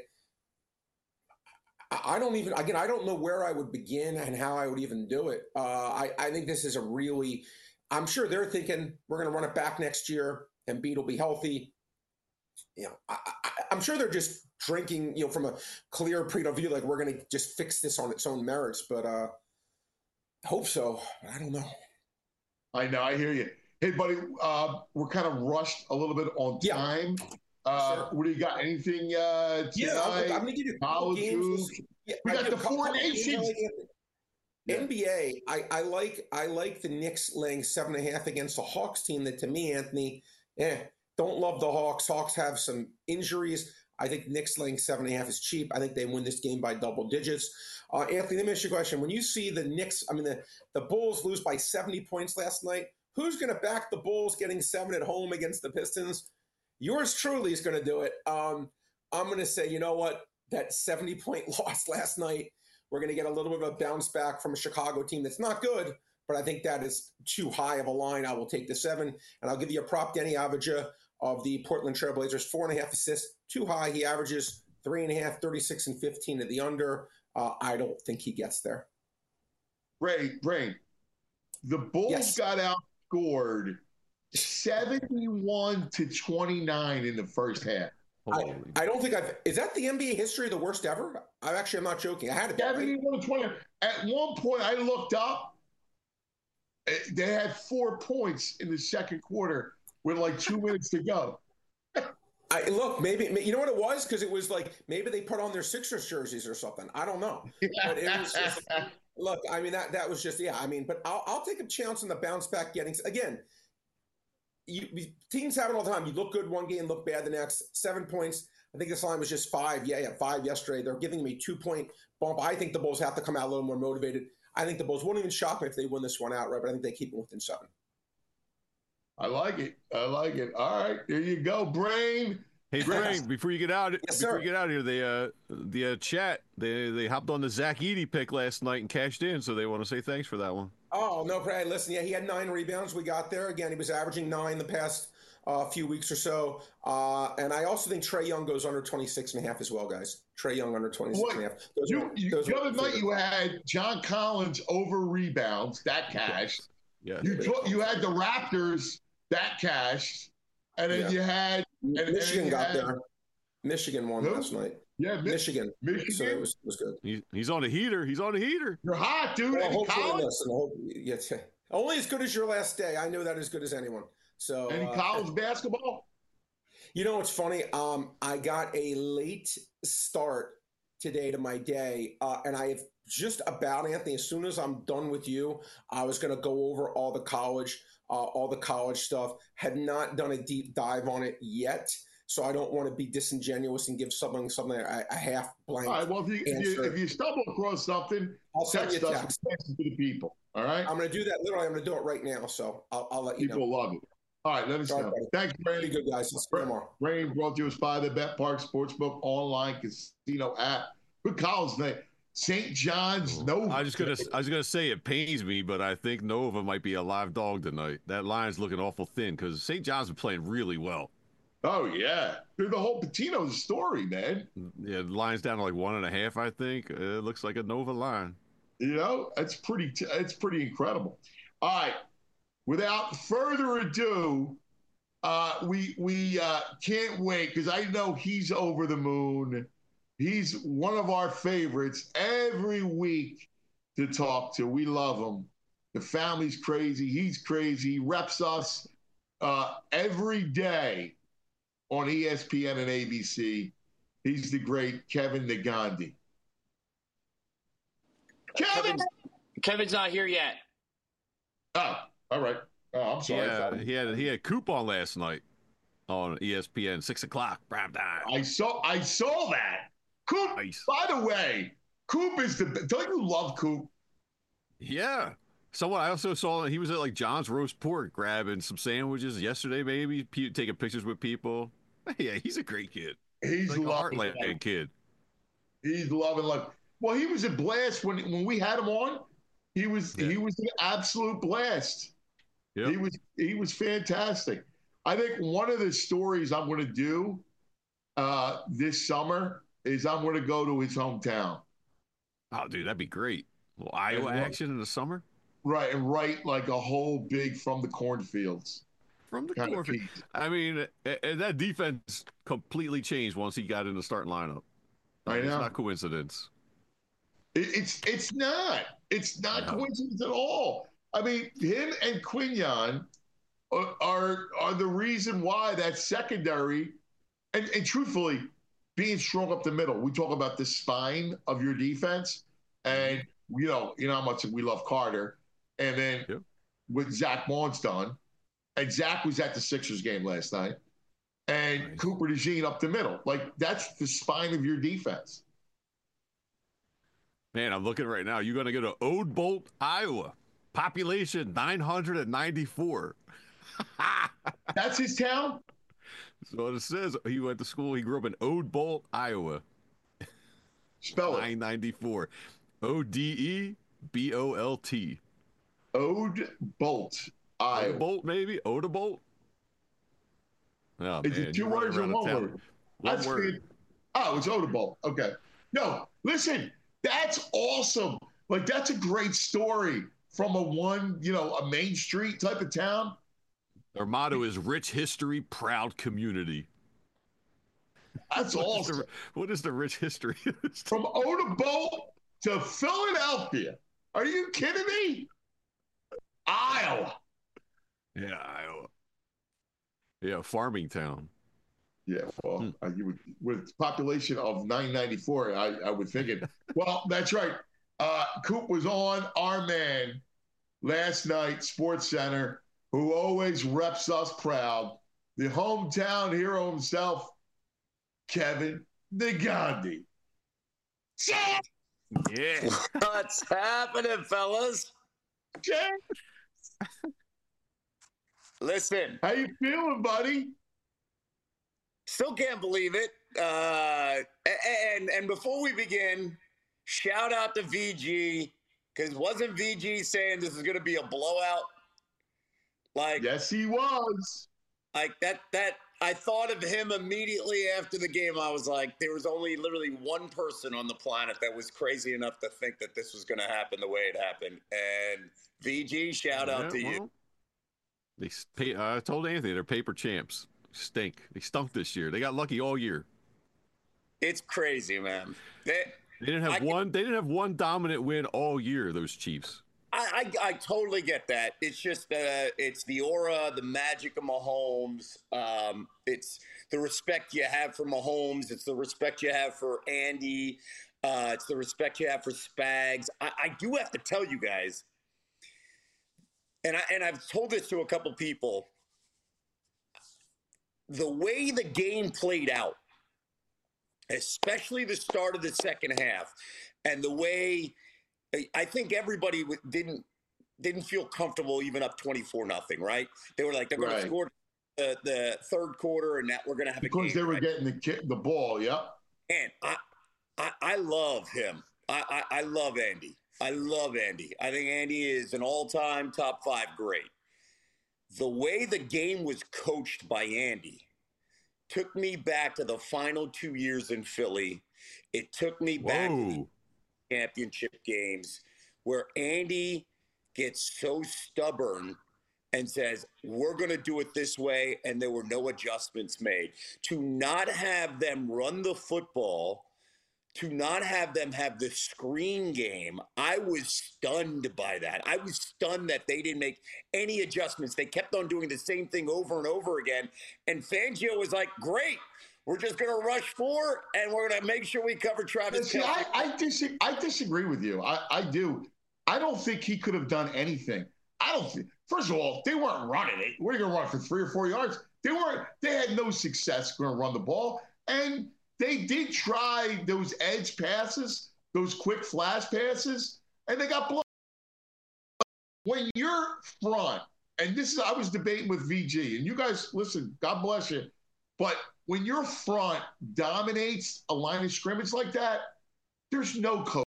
I I don't even, again, I don't know where I would begin and how I would even do it. Uh, I, I think this is a really, I'm sure they're thinking we're going to run it back next year and Embiid will be healthy. You know, I, I, I'm sure they're just drinking, you know, from a clear point of view, like we're going to just fix this on its own merits. But uh, I hope so. I don't know. I know. I hear you. Hey, buddy, uh, we're kind of rushed a little bit on Yeah. time. Uh, Sure. What do you got? Anything uh, tonight? Yeah, I'm, I'm going to give you a couple College games. hoops? Yeah, We I got do the a couple- four couple games I nations. like. Yeah. N B A, I, I like I like the Knicks laying seven and a half against the Hawks team. That to me, Anthony, eh, don't love the Hawks. Hawks have some injuries. I think Knicks laying seven and a half is cheap. I think they win this game by double digits. Uh, Anthony, let me ask you a question. When you see the Knicks, I mean the the Bulls lose by seventy points last night, who's going to back the Bulls getting seven at home against the Pistons? Yours truly is going to do it. Um, I'm going to say, you know what? That seventy point loss last night. We're going to get a little bit of a bounce back from a Chicago team that's not good, but I think that is too high of a line. I will take the seven, and I'll give you a prop. Danny Avdija of the Portland Trailblazers, four and a half assists, too high. He averages three and a half, thirty-six and fifteen at the under. Uh, I don't think he gets there. Ray, Ray, the Bulls Yes. got outscored seventy-one to twenty-nine in the first half. Holy. I, I don't think I've. Is that the N B A history of the worst ever? I actually, I'm not joking. I had it. seventy-one to twenty. At one point, I looked up. eh, They had four points in the second quarter with like two minutes to go. I look, maybe you know what it was, because it was like maybe they put on their Sixers jerseys or something. I don't know. But it was just, look, I mean that that was just yeah. I mean, but I'll I'll take a chance on the bounce back. Getting again, you, teams have it all the time. You look good one game, look bad the next. Seven points. I think this line was just five. Yeah, yeah, five yesterday. They're giving me two point bump. I think the Bulls have to come out a little more motivated. I think the Bulls won't even shock me if they win this one outright, but I think they keep it within seven. I like it. I like it. All right, there you go, Brain. Hey, Brain, before you get out, Yes, before sir. you get out here, they uh the uh, chat they they hopped on the Zach Edey pick last night and cashed in, so they want to say thanks for that one. Oh no, Brad. Listen, yeah, he had nine rebounds. We got there again. He was averaging nine the past uh, few weeks or so. Uh, and I also think Trae Young goes under twenty-six and a half as well, guys. Trae Young under twenty-six and a half. Those You, are- you, those the are- other night you had John Collins over rebounds that cashed. Yeah. You took, you had the Raptors that cashed, and then Yeah. you had and, and Michigan you got had, there. Michigan won Who? last night. Yeah, Mi- Michigan. Michigan. So it was, it was good. He, he's on a heater. He's on a heater. You're hot, dude. Well, And hopefully, Collins, listen, hope, yeah, t- only as good as your last day. I know that as good as anyone. So, any uh, college basketball? you know what's funny? Um, I got a late start today to my day, uh, and I have just about, Anthony. As soon as I'm done with you, I was going to go over all the college, uh, all the college stuff. Had not done a deep dive on it yet, so I don't want to be disingenuous and give something something a, a half blank. All right. Well, if you, if you answer. if you stumble across something, I'll send text you a us. text. Text it to the people. All right. I'm going to do that. Literally, I'm going to do it right now. So I'll, I'll let you know. People love it. All right. Let us All right, know. buddy. Thank you, Pretty Brandon. good, guys. I'll see you tomorrow. Rain brought to us by the Bet Park Sportsbook online casino app. Good college name. Saint John's. No. I was just gonna I was gonna say it pains me, but I think Nova might be a live dog tonight. That line's looking awful thin because Saint John's been playing really well. Oh yeah, dude. The whole Patino's story, man. Yeah, the line's down to like one and a half. I think it looks like a Nova line. You know, it's pretty. T- it's pretty incredible. All right. Without further ado, uh, we we uh, can't wait because I know he's over the moon. He's one of our favorites every week to talk to. We love him. The family's crazy. He's crazy. He reps us uh, every day on E S P N and A B C. He's the great Kevin Negandhi. Kevin! Kevin's, Kevin's not here yet. Oh, all right. Oh, I'm sorry. Yeah, he had he had Coop on last night on E S P N, six o'clock prime time. I saw I saw that. Coop, Nice. by the way, Coop is the don't you love Coop? Yeah. Someone I also saw he was at like John's Roast Pork grabbing some sandwiches yesterday, maybe pe- taking pictures with people. Yeah, he's a great kid. He's Like a loving Heartland life. kid. He's loving life. Well, he was a blast when when we had him on. He was Yeah. he was an absolute blast. Yep. He was he was fantastic. I think one of the stories I'm going to do uh, this summer is I'm going to go to his hometown, Oh, dude, that'd be great. Well, Iowa what- action in the summer right, and write like a whole big from the cornfields from the kind of cornfield. piece. I mean, a- and that defense completely changed once he got in the starting lineup. I It's know. not coincidence. It, it's it's not. It's not No. coincidence at all. I mean, him and Quinion are, are are the reason why that secondary, and, and truthfully, being strong up the middle. We talk about the spine of your defense, and you know, you know how much we love Carter, and then Yep. what Zach Vaughn's done, and Zach was at the Sixers game last night, and Nice. Cooper DeJean up the middle. Like that's the spine of your defense. Man, I'm looking right now. You're going to go to Ode Bolt, Iowa. Population nine hundred ninety-four. That's his town. So it says he went to school. He grew up in Ode Bolt, Iowa. Spell it. nine ninety-four. O D E B O L T. Ode Bolt, Iowa. Bolt, maybe? Oda Bolt? Oh, Is man, it you two run words or around one the town. word? One That's word. fan- Oh, it's Oda Bolt. Okay. No, listen, that's awesome. Like, that's a great story from a one, you know, a Main Street type of town. Their motto is rich history, proud community. That's What is awesome. the, what is the rich history? From Odebo to Philadelphia. Are you kidding me? Iowa. Yeah, Iowa. Yeah, farming town. Yeah, well, Hmm. uh, you would, with a population of nine ninety-four, I, I would think it. Well, that's right. Uh, Coop was on our man last night, Sports Center, who always reps us proud. The hometown hero himself, Kevin the Gandhi. Yeah. What's happening, fellas? Listen, How you feeling, buddy? still can't believe it. Uh, and and before we begin, shout out to V G, because wasn't V G saying this is going to be a blowout? Like, Yes, he was. like that that I thought of him immediately after the game. I was like, there was only literally one person on the planet that was crazy enough to think that this was going to happen the way it happened. And V G, shout out Yeah, to you. well, They pay, I told Anthony they're paper champs. Stink. They stunk this year. They got lucky all year. It's crazy, man. They, They didn't have I can- one. They didn't have one dominant win all year. Those Chiefs. I, I, I totally get that. It's just uh, it's the aura, the magic of Mahomes. Um, it's the respect you have for Mahomes. It's the respect you have for Andy. Uh, it's the respect you have for Spags. I, I do have to tell you guys, and I and I've told this to a couple people. The way the game played out, especially the start of the second half, and the way I think everybody didn't didn't feel comfortable even up twenty-four nothing, right? They were like, they're going Right. to score the, the third quarter, and that we're going to have a Because game, they were right? getting the ki- the ball, yep. And I, I, I love him. I, I, I love Andy. I love Andy. I think Andy is an all-time top five great. The way the game was coached by Andy took me back to the final two years in Philly. It took me back to the Whoa. championship games where Andy gets so stubborn and says, we're going to do it this way, and there were no adjustments made. To not have them run the football, to not have them have the screen game, I was stunned by that. I was stunned that they didn't make any adjustments. They kept on doing the same thing over and over again. And Fangio was like, great, we're just going to rush four, and we're going to make sure we cover Travis See, Kelce. I, I, dis- I disagree with you. I, I do. I don't think he could have done anything. I don't think, first of all, they weren't running it. We're going to run for three or four yards. They weren't, they had no success going to run the ball. And they did try those edge passes, those quick flash passes, and they got blown. When you're front, and this is, I was debating with V G, and you guys, listen, God bless you, but when your front dominates a line of scrimmage like that, there's no coach.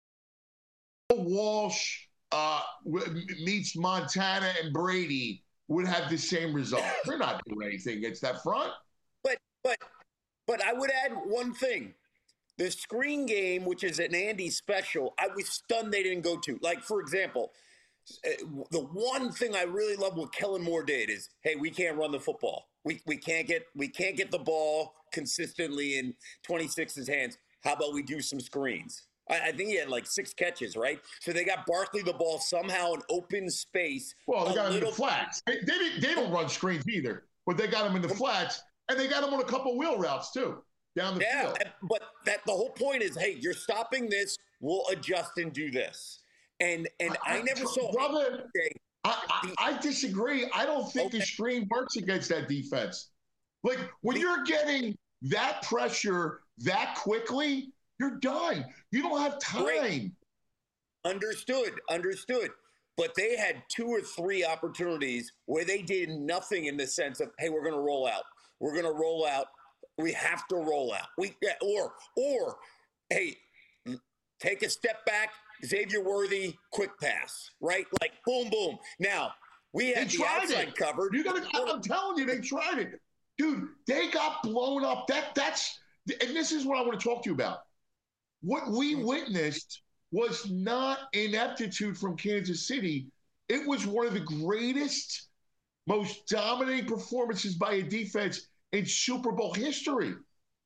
Walsh uh, meets Montana and Brady would have the same result. They're not doing anything against that front. But but but I would add one thing. The screen game, which is an Andy special, I was stunned they didn't go to. Like, for example, the one thing I really love what Kellen Moore did is, hey, we can't run the football. We we can't get we can't get the ball consistently in twenty-six's hands. How about we do some screens? I, I think he had like six catches, right? So they got Barkley the ball somehow in open space. Well, they a got him in little- the flats. They, they, didn't- they don't run screens either, but they got him in the flats, and they got him on a couple wheel routes too, down the Yeah, field. but that the whole point is, hey, you're stopping this. We'll adjust and do this. And and I, never saw brother. okay, I, I, I disagree. I don't think Okay. the screen works against that defense. Like when you're getting that pressure that quickly, you're done. You don't have time. Great. Understood, understood. But they had two or three opportunities where they did nothing in the sense of, hey, we're going to roll out. We're going to roll out. We have to roll out. We or or hey, take a step back. Xavier Worthy, quick pass, right? Like boom, boom. Now we They had the tried outside it. covered. You gotta. I'm telling you, they tried it, dude. They got blown up. That that's and this is what I want to talk to you about. What we witnessed was not ineptitude from Kansas City. It was one of the greatest, most dominating performances by a defense in Super Bowl history.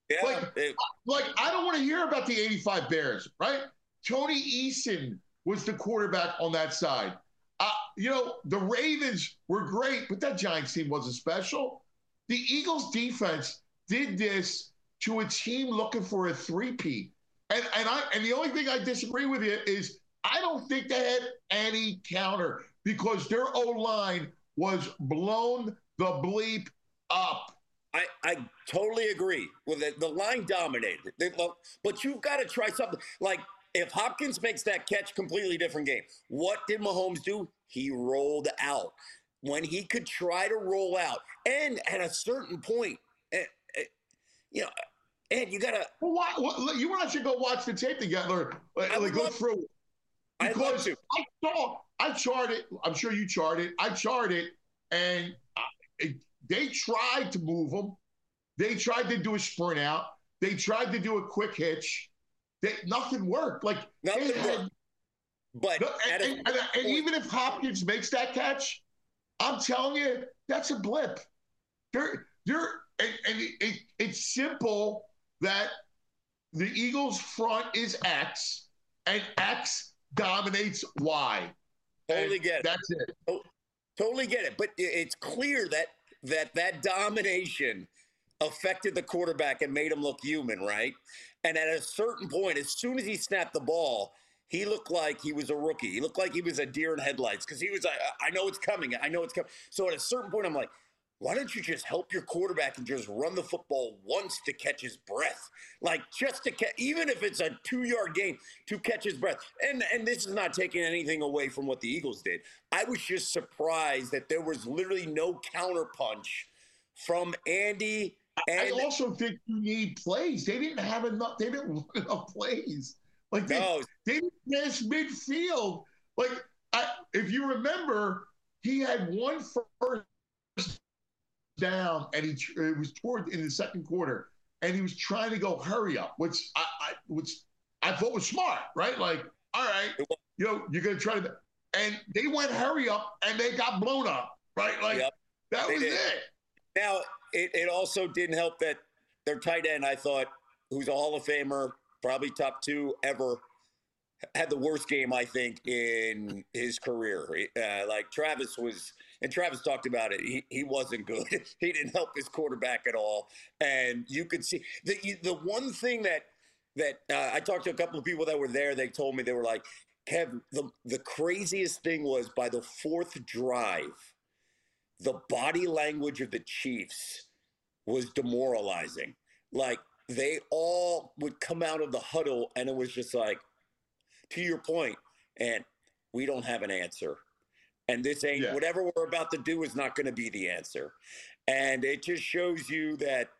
Yeah, Like, it, like I don't want to hear about the eighty-five Bears, right? Tony Eason was the quarterback on that side. Uh, you know, the Ravens were great, but that Giants team wasn't special. The Eagles defense did this to a team looking for a three-peat. And and I and the only thing I disagree with you is I don't think they had any counter because their O-line was blown the bleep up. I, I totally agree with it. The line dominated. They, but you've got to try something. Like, if Hopkins makes that catch, completely different game. What did Mahomes do? He rolled out. When he could try to roll out, and at a certain point, uh, uh, you know, and you got to. Well, why, what, you and I should go watch the tape together. Like, like go through it. Because I saw, I charted, I'm sure you charted, I charted, and I, it, they tried to move them. They tried to do a sprint out. They tried to do a quick hitch. They, nothing worked. Like nothing had, worked. But no, and, and, and, and even if Hopkins makes that catch, I'm telling you, that's a blip. They're, they're, and, and it, it, it's simple that the Eagles' front is X, and X dominates Y. Totally and get it. That's it. Oh, totally get it. But it's clear that that that domination affected the quarterback and made him look human, right? And at a certain point, as soon as he snapped the ball, he looked like he was a rookie. He looked like he was a deer in headlights because he was, I, I know it's coming. I know it's coming. So at a certain point, I'm like, why don't you just help your quarterback and just run the football once to catch his breath? Like just to catch, even if it's a two-yard gain, to catch his breath. And and this is not taking anything away from what the Eagles did. I was just surprised that there was literally no counterpunch from Andy. And I also think you need plays. They didn't have enough. They didn't run enough plays. Like they, no. they didn't miss midfield. Like I, if you remember, he had one first down, and he it was toward in the second quarter, and he was trying to go hurry up, which I, I which I thought was smart, right? Like, all right, you know, you're gonna try to, and they went hurry up, and they got blown up, right? Like yep, that was did. it. Now it, it also didn't help that their tight end, I thought, who's a Hall of Famer, probably top two ever, had the worst game I think in his career. Uh, like Travis was. And Travis talked about it. He he wasn't good. He didn't help his quarterback at all. And you could see the the one thing that that uh, I talked to a couple of people that were there. They told me they were like, Kev, the the craziest thing was by the fourth drive, the body language of the Chiefs was demoralizing. Like they all would come out of the huddle, and it was just like, to your point, and we don't have an answer. And this ain't, yeah. whatever we're about to do is not going to be the answer. And it just shows you that,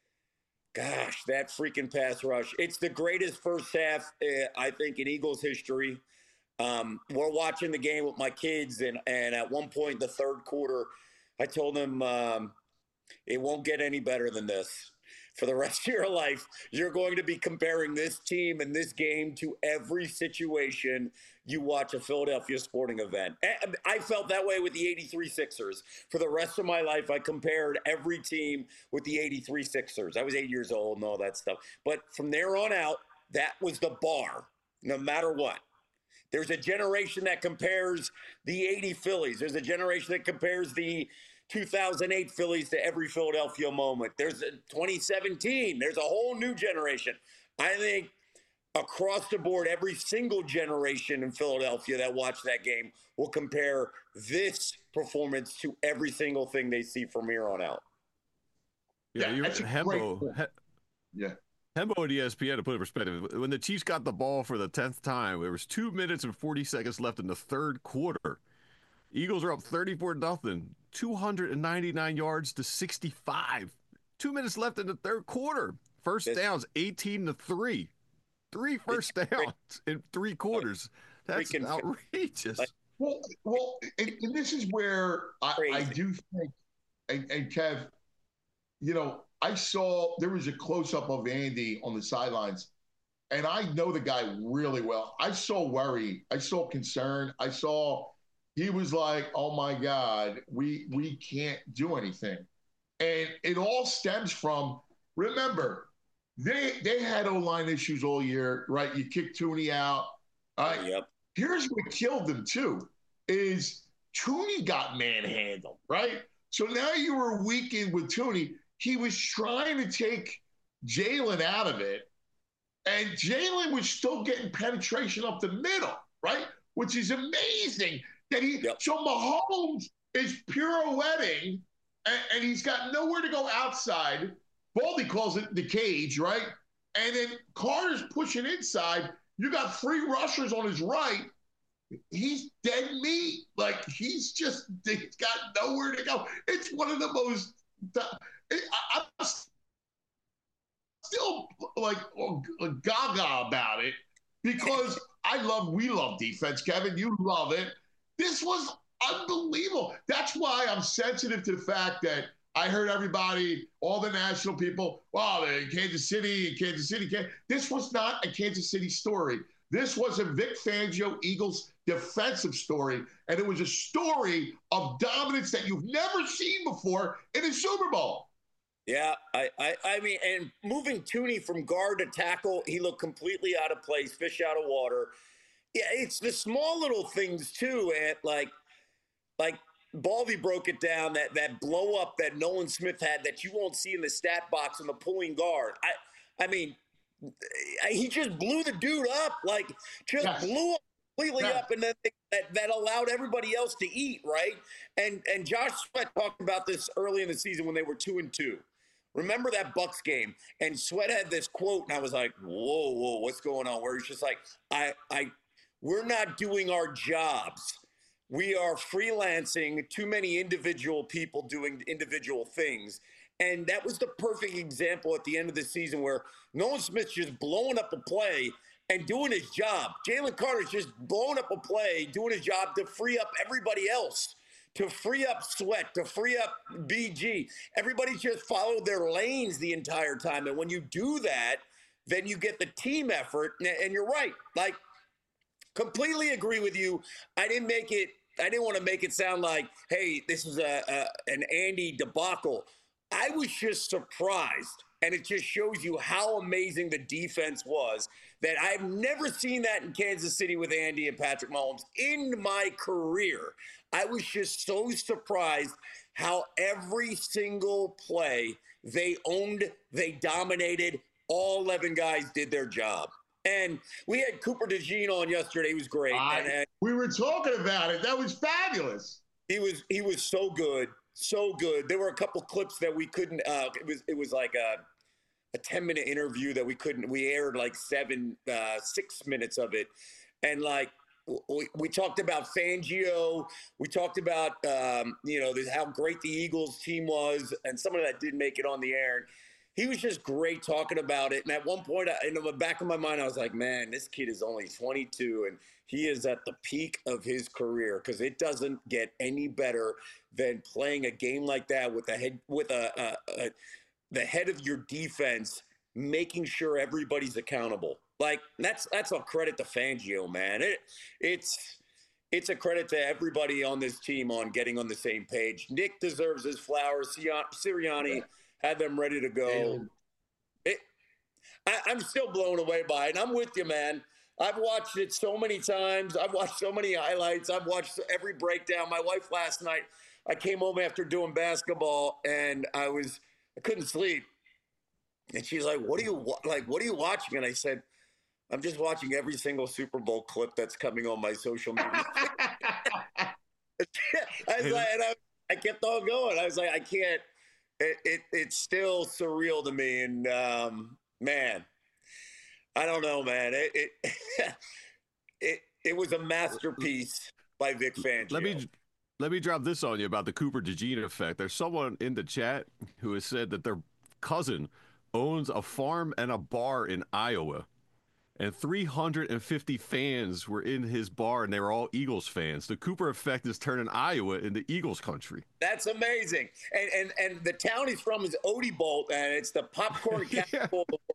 gosh, that freaking pass rush. It's the greatest first half, uh, I think, in Eagles history. Um, we're watching the game with my kids, and, and at one point in the third quarter, I told them um, it won't get any better than this. For the rest of your life, you're going to be comparing this team and this game to every situation you watch a Philadelphia sporting event. I felt that way with the eighty-three Sixers. For the rest of my life, I compared every team with the eighty-three Sixers. I was eight years old and all that stuff. But from there on out, that was the bar, no matter what. There's a generation that compares the eighty Phillies. There's a generation that compares the two thousand eight Phillies to every Philadelphia moment. There's a twenty seventeen. There's a whole new generation. I think across the board, every single generation in Philadelphia that watched that game will compare this performance to every single thing they see from here on out. Yeah, yeah, you're Hembo. He, yeah. Hembo and E S P N, to put it in perspective, when the Chiefs got the ball for the tenth time, there was two minutes and forty seconds left in the third quarter. Eagles are up thirty-four nothing, two hundred ninety-nine yards to sixty-five. Two minutes left in the third quarter. First it's, downs, eighteen to three. Three first downs in three quarters. That's outrageous. Well, well, and, and this is where I, I do think, and, and Kev, you know, I saw there was a close-up of Andy on the sidelines, and I know the guy really well. I saw worry. I saw concern. I saw he was like, oh, my God, we we can't do anything. And it all stems from, remember, they they had O-line issues all year, right? You kicked Tooney out. Uh, Yep. Here's what killed them too, is Tooney got manhandled, right? So now you were weakened with Tooney. He was trying to take Jalen out of it, and Jalen was still getting penetration up the middle, right? Which is amazing. That he Yep. So Mahomes is pirouetting, and, and he's got nowhere to go outside. Baldy calls it the cage, right? And then Carter's pushing inside. You got three rushers on his right. He's dead meat. Like, he's just, he's got nowhere to go. It's one of the most, I, I'm still like gaga about it because I love, we love defense, Kevin. You love it. This was unbelievable. That's why I'm sensitive to the fact that I heard everybody, all the national people, wow, Kansas City, Kansas City. This was not a Kansas City story. This was a Vic Fangio Eagles defensive story, and it was a story of dominance that you've never seen before in a Super Bowl. Yeah, I, I, I mean, and moving Tooney from guard to tackle, he looked completely out of place, fish out of water. Yeah, it's the small little things too, and like, like. Baldy broke it down, that that blow up that Nolan Smith had that you won't see in the stat box on the pulling guard. I I mean, he just blew the dude up, like just yes. blew him completely yes. up, and then that, that allowed everybody else to eat, right? And and Josh Sweat talked about this early in the season when they were two and two. Remember that Bucks game? And Sweat had this quote, and I was like, whoa, whoa, what's going on? Where he's just like, I I we're not doing our jobs. We are freelancing, too many individual people doing individual things. And that was the perfect example at the end of the season where Nolan Smith's just blowing up a play and doing his job. Jalen Carter's just blowing up a play, doing his job to free up everybody else, to free up Sweat, to free up B G. Everybody just followed their lanes the entire time. And when you do that, then you get the team effort. And you're right. Like, completely agree with you. I didn't make it, I didn't want to make it sound like, hey, this is a, a an Andy debacle. I was just surprised. And it just shows you how amazing the defense was, that I've never seen that in Kansas City with Andy and Patrick Mahomes in my career. I was just so surprised how every single play they owned, they dominated, all eleven guys did their job. And we had Cooper DeJean on yesterday. He was great. I, and, and we were talking about it. That was fabulous. He was he was so good, so good. There were a couple clips that we couldn't. Uh, it was it was like a a ten minute interview that we couldn't. We aired like seven, uh, six minutes of it, and like we, we talked about Fangio. We talked about um, you know how great the Eagles team was, and some of that didn't make it on the air. He was just great talking about it. And at one point, in the back of my mind, I was like, man, this kid is only twenty-two, and he is at the peak of his career, because it doesn't get any better than playing a game like that with a head, with a, a, a the head of your defense, making sure everybody's accountable. Like, that's that's a credit to Fangio, man. It it's it's a credit to everybody on this team on getting on the same page. Nick deserves his flowers. Sirianni had them ready to go. It, I, I'm still blown away by it. And I'm with you, man. I've watched it so many times. I've watched so many highlights. I've watched every breakdown. My wife last night, I came home after doing basketball, and I was I couldn't sleep. And she's like, "What are you like? What are you watching?" And I said, "I'm just watching every single Super Bowl clip that's coming on my social media." I was like, and I, I kept on going. I was like, I can't. It, it it's still surreal to me, and um, man, I don't know, man. It it it, it was a masterpiece by Vic Fangio. Let me let me drop this on you about the Cooper DeJean effect. There's someone in the chat who has said that their cousin owns a farm and a bar in Iowa, and three hundred fifty fans were in his bar, and they were all Eagles fans. The Cooper effect is turning Iowa into Eagles country. That's amazing. And and and the town he's from is Odebolt, and it's the popcorn capital. Yeah.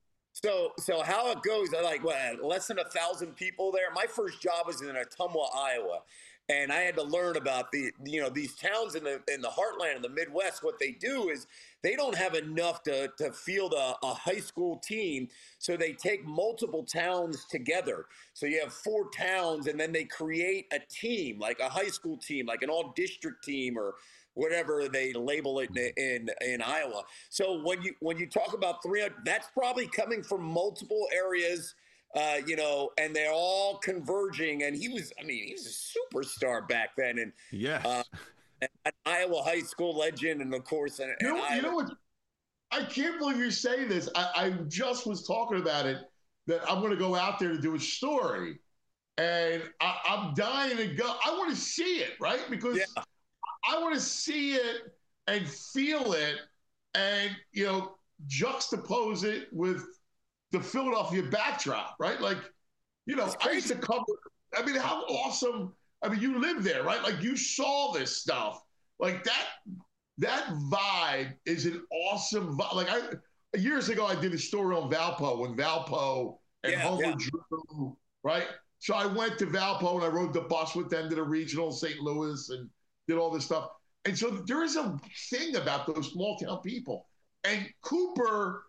So so how it goes, like what, less than a thousand people there. My first job was in Ottumwa, Iowa, And I had to learn about the, you know, these towns in the in the heartland in the Midwest. What they do is they don't have enough to, to field a, a high school team. So they take multiple towns together. So you have four towns, and then they create a team, like a high school team, like an all district team or whatever they label it in, in in Iowa. So when you when you talk about three hundred, that's probably coming from multiple areas. Uh, you know, and they're all converging. And he was, I mean, he was a superstar back then. And yes, uh, an Iowa high school legend. And of course, an, you know, an you know what? I can't believe you're saying this. I, I just was talking about it, that I'm going to go out there to do a story. And I, I'm dying to go. I want to see it, right? Because yeah. I want to see it and feel it and, you know, juxtapose it with the Philadelphia backdrop, right? Like, you know, I used to cover, I mean, how awesome. I mean, you live there, right? Like, you saw this stuff. Like, that that vibe is an awesome vibe. Like, I years ago, I did a story on Valpo when Valpo and Yeah, Homer yeah. Drew, right? So I went to Valpo and I rode the bus with them to the regional Saint Louis and did all this stuff. And so there is a thing about those small town people. And Cooper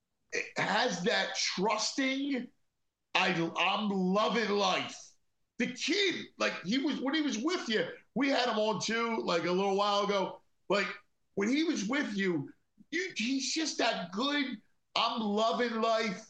has that trusting, I, I'm loving life. The kid, like he was, when he was with you, we had him on too, like a little while ago. Like when he was with you, you he's just that good, I'm loving life,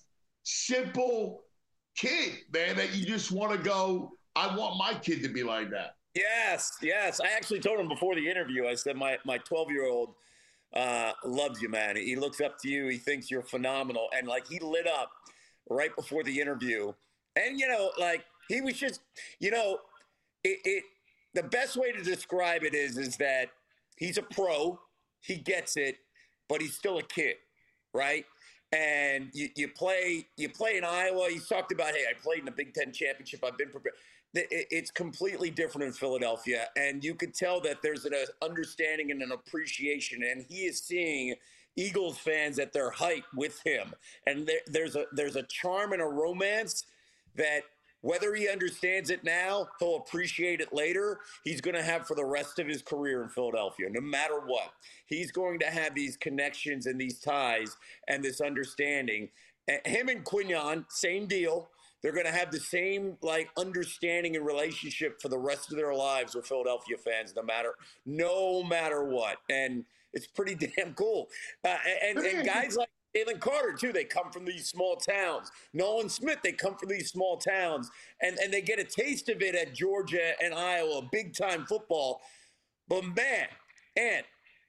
simple kid, man, that you just want to go, I want my kid to be like that. Yes, yes. I actually told him before the interview, I said, my my twelve-year-old uh, loves you, man. He looks up to you. He thinks you're phenomenal. And, like, he lit up right before the interview. And, you know, like, he was just, you know, it, it the best way to describe it is, is that he's a pro. He gets it, but he's still a kid, right? And you, you play you play in Iowa. He talked about, hey, I played in the Big Ten championship. I've been prepared. It's completely different in Philadelphia. And you could tell that there's an understanding and an appreciation. And he is seeing Eagles fans at their height with him. And there, there's a there's a charm and a romance that whether he understands it now, he'll appreciate it later. He's going to have for the rest of his career in Philadelphia, no matter what. He's going to have these connections and these ties and this understanding. And him and Quinyon, same deal. They're going to have the same like understanding and relationship for the rest of their lives with Philadelphia fans, no matter no matter what. And it's pretty damn cool. Uh, and, and guys like Jalen Carter, too, they come from these small towns. Nolan Smith, they come from these small towns. And, and they get a taste of it at Georgia and Iowa, big-time football. But, man, and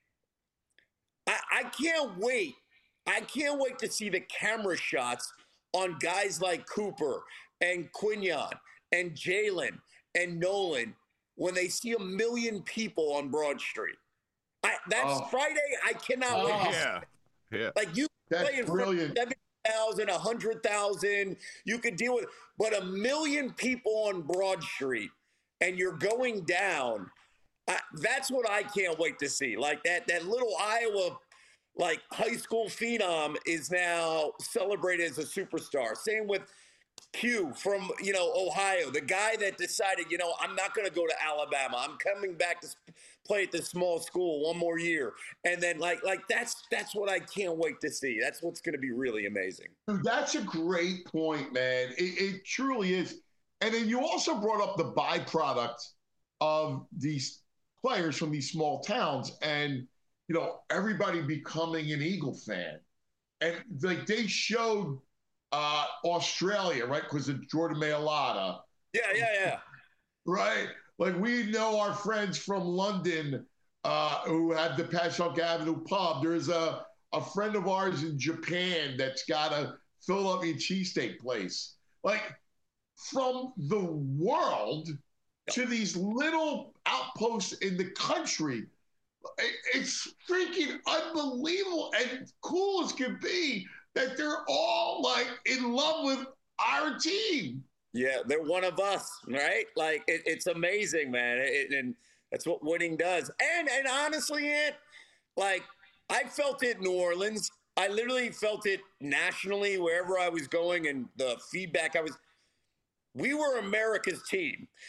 I, I can't wait. I can't wait to see the camera shots on guys like Cooper and Quinyon and Jalen and Nolan when they see a million people on Broad Street. I, that's oh. Friday. I cannot oh. wait. Yeah. Yeah. Like you That's play in front of seventy thousand, one hundred thousand, you could deal with it. But a million people on Broad Street and you're going down, I, that's what I can't wait to see. Like that, that little Iowa like high school phenom is now celebrated as a superstar. Same with Q from, you know, Ohio, the guy that decided, you know, I'm not going to go to Alabama. I'm coming back to play at this small school one more year. And then like, like that's, that's what I can't wait to see. That's what's going to be really amazing. Dude, that's a great point, man. It, it truly is. And then you also brought up the byproduct of these players from these small towns and, you know, everybody becoming an Eagle fan. And like they showed uh, Australia, right? Because of Jordan Mailata. Yeah, yeah, yeah. Right? Like we know our friends from London uh, who have the Passyunk Avenue pub. There's a, a friend of ours in Japan that's got a Philadelphia cheesesteak place. Like from the world to these little outposts in the country, it's freaking unbelievable and cool as can be that they're all like in love with our team. Yeah, they're one of us, right? Like it, it's amazing, man, it, and that's what winning does. And and honestly, it like I felt it in New Orleans. I literally felt it nationally wherever I was going, and the feedback I was. We were America's team.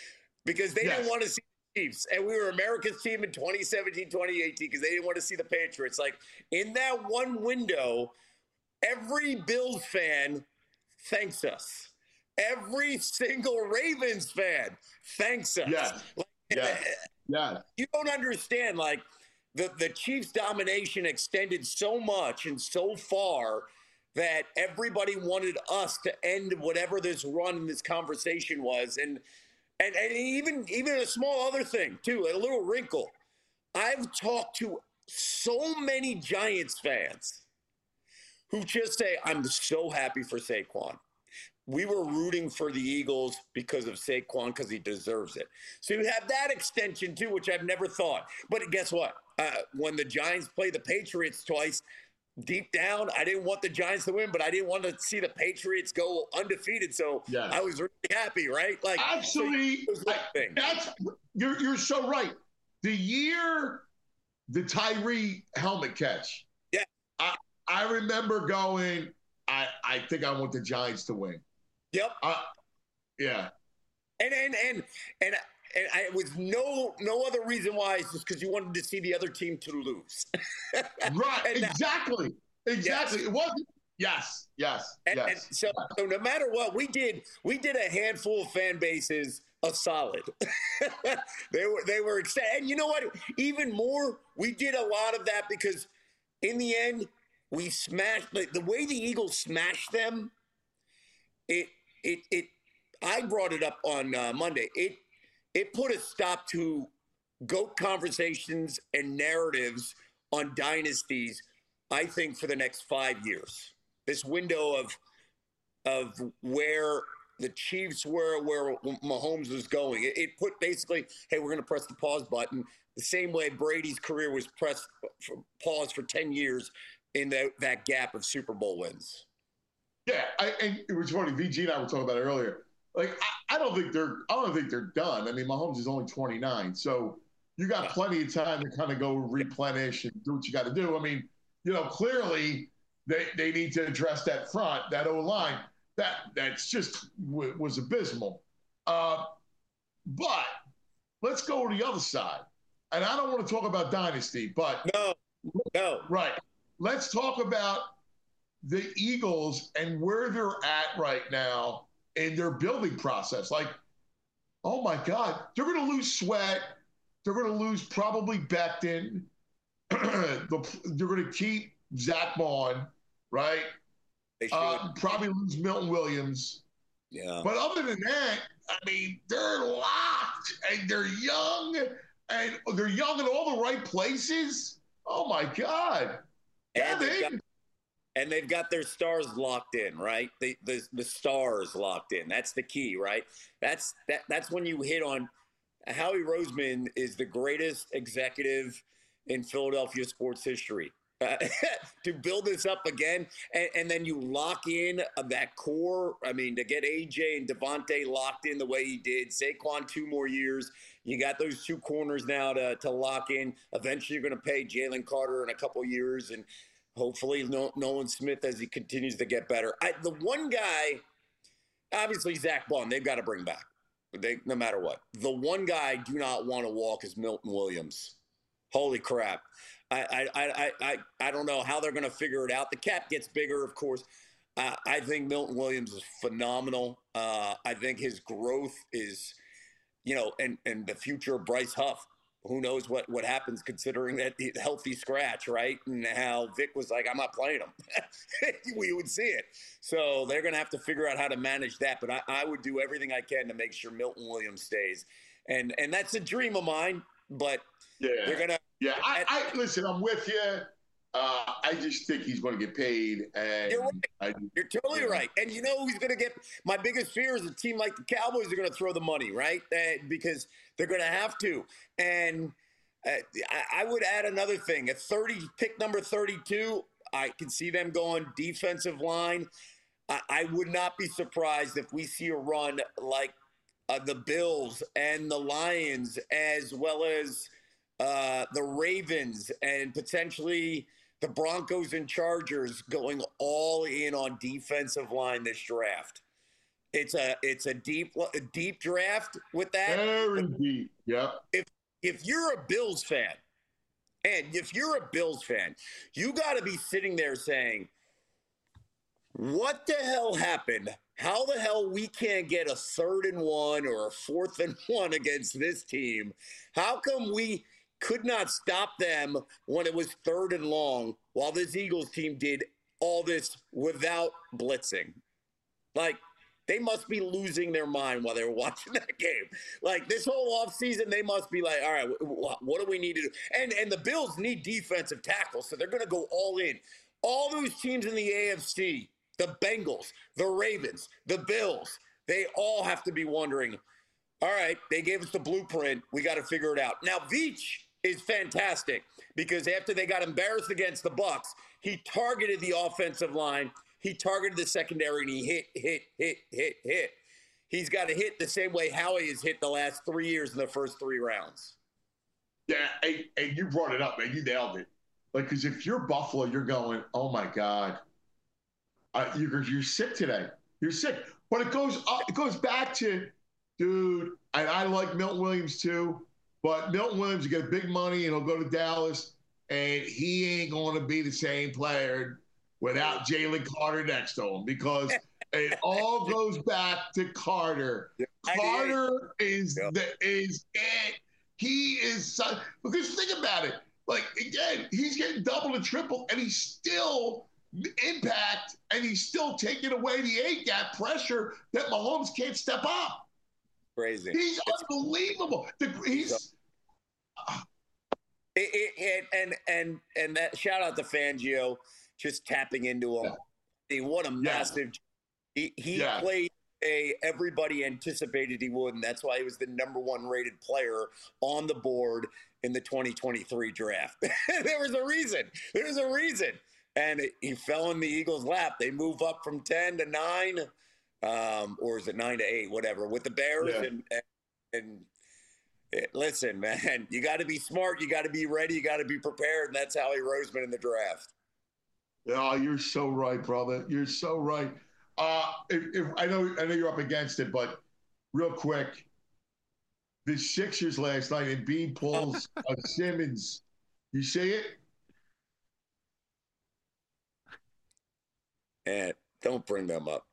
because they Yes. didn't want to see the Chiefs. And we were America's team in twenty seventeen, twenty eighteen because they didn't want to see the Patriots. Like, in that one window, every Bills fan thanks us. Every single Ravens fan thanks us. Yes. Like, Yes. Yes. You don't understand, like, the, the Chiefs' domination extended so much and so far that everybody wanted us to end whatever this run in this conversation was. And and, and even, even a small other thing, too, a little wrinkle. I've talked to so many Giants fans who just say, I'm so happy for Saquon. We were rooting for the Eagles because of Saquon, because he deserves it. So you have that extension, too, which I've never thought. But guess what? Uh, when the Giants play the Patriots twice, deep down, I didn't want the Giants to win, but I didn't want to see the Patriots go undefeated. So Yes. I was really happy, right? Like, Absolutely. so I, that's you're you're so right. The year the Tyree helmet catch. Yeah. I I remember going, I, I think I want the Giants to win. Yep. Uh, yeah. And and and and and I, it was no no other reason why. It's just because you wanted to see the other team to lose. Right. And that- Exactly. Exactly. Yes. It wasn't. Yes. Yes. And, yes. and so, so no matter what, we did we did a handful of fan bases a solid. they were they were excited. And you know what? Even more, we did a lot of that because in the end, we smashed like, the way the Eagles smashed them. It it it. I brought it up on uh, Monday. It it put a stop to GOAT conversations and narratives on dynasties, I think, for the next five years. This window of of where the Chiefs were, where Mahomes was going. It, it put basically, hey, we're going to press the pause button the same way Brady's career was pressed for, paused for ten years in the, that gap of Super Bowl wins. Yeah, I, and it was funny. V G and I were talking about it earlier. Like, I, I don't think they're. I don't think they're done. I mean, Mahomes is only twenty-nine, so you got plenty of time to kind of go replenish and do what you got to do. I mean, you know, clearly they they need to address that front, that O line. That that's just w- was abysmal. Uh, but let's go to the other side. And I don't want to talk about dynasty, but no, no, right. Let's talk about the Eagles and where they're at right now in their building process. Like, oh my God, they're going to lose Sweat. They're going to lose probably Becton. They're going to keep Zach Bond, right? They should. Uh, probably lose Milton Williams. Yeah. But other than that, I mean, they're locked and they're young and they're young in all the right places. Oh my God. And Yeah, they've, got, and they've got their stars locked in, right? The, the the stars locked in. That's the key, right? That's that. That's when you hit on Howie Roseman is the greatest executive in Philadelphia sports history. Uh, to build this up again, and, and then you lock in that core. I mean, to get A J and Devontae locked in the way he did, Saquon two more years. You got those two corners now to, to lock in. Eventually, you're going to pay Jalen Carter in a couple years, and hopefully Nolan Smith as he continues to get better. I, the one guy, obviously Zach Bond, they've got to bring back. They, no matter what. The one guy I do not want to walk is Milton Williams. Holy crap. I, I, I, I, I don't know how they're going to figure it out. The cap gets bigger, of course. Uh, I think Milton Williams is phenomenal. Uh, I think his growth is, you know, and, and the future of Bryce Huff. Who knows what, what happens considering that healthy scratch, right? And how Vic was like, I'm not playing him. We would see it. So they're going to have to figure out how to manage that. But I, I would do everything I can to make sure Milton Williams stays. And and that's a dream of mine. But yeah, they're going to. Yeah, I, I listen, I'm with you. Uh, I just think he's going to get paid. And You're right. I, You're totally yeah. right. And you know who's going to get – my biggest fear is a team like the Cowboys are going to throw the money, right? Uh, because they're going to have to. And uh, I, I would add another thing. At thirty, pick number thirty-two, I can see them going defensive line. I, I would not be surprised if we see a run like uh, the Bills and the Lions as well as uh, the Ravens and potentially – the Broncos and Chargers going all in on defensive line this draft. It's a it's a deep a deep draft with that. Very deep. Yeah. If if you're a Bills fan, and if you're a Bills fan, you got to be sitting there saying, what the hell happened? How the hell we can't get a third and one or a fourth and one against this team? How come we could not stop them when it was third and long while this Eagles team did all this without blitzing? Like, they must be losing their mind while they were watching that game. Like, this whole offseason, they must be like, all right, what do we need to do? And, and the Bills need defensive tackles, so they're going to go all in. All those teams in the A F C, the Bengals, the Ravens, the Bills, they all have to be wondering, all right, they gave us the blueprint. We got to figure it out. Now, Veach is fantastic because after they got embarrassed against the Bucs, he targeted the offensive line. He targeted the secondary, and he hit, hit, hit, hit, hit. He's got to hit the same way Howie has hit the last three years in the first three rounds. Yeah, and, and you brought it up, man. You nailed it. Like, because if you're Buffalo, you're going, oh, my God. Uh, you're, you're sick today. You're sick. But it goes up, it goes back to, dude, and I like Milton Williams too, but Milton Williams, you get big money and he'll go to Dallas, and he ain't going to be the same player without Jalen Carter next to him because it all goes back to Carter. Carter is yeah. the is it. He is so, because think about it. Like, again, he's getting double and triple, and he's still impact, and he's still taking away the A-gap pressure that Mahomes can't step up. Crazy. He's it's, unbelievable. The, he's uh, it, it, and and and that shout out to Fangio just tapping into him. Yeah. What a massive. Yeah. He he yeah. played a everybody anticipated he would, and that's why he was the number one rated player on the board in the twenty twenty-three draft. There was a reason. There was a reason. And it, he fell in the Eagles' lap. They move up from ten to nine, um, or is it nine to eight, whatever, with the Bears. Yeah. And, and, and it, listen, man, you got to be smart. You got to be ready. You got to be prepared. And that's Howie Roseman in the draft. Oh, you're so right, brother. You're so right. Uh, if, if I know, I know you're up against it, but real quick, the Sixers last night, and Embiid pulls uh, Simmons. You see it? And don't bring them up.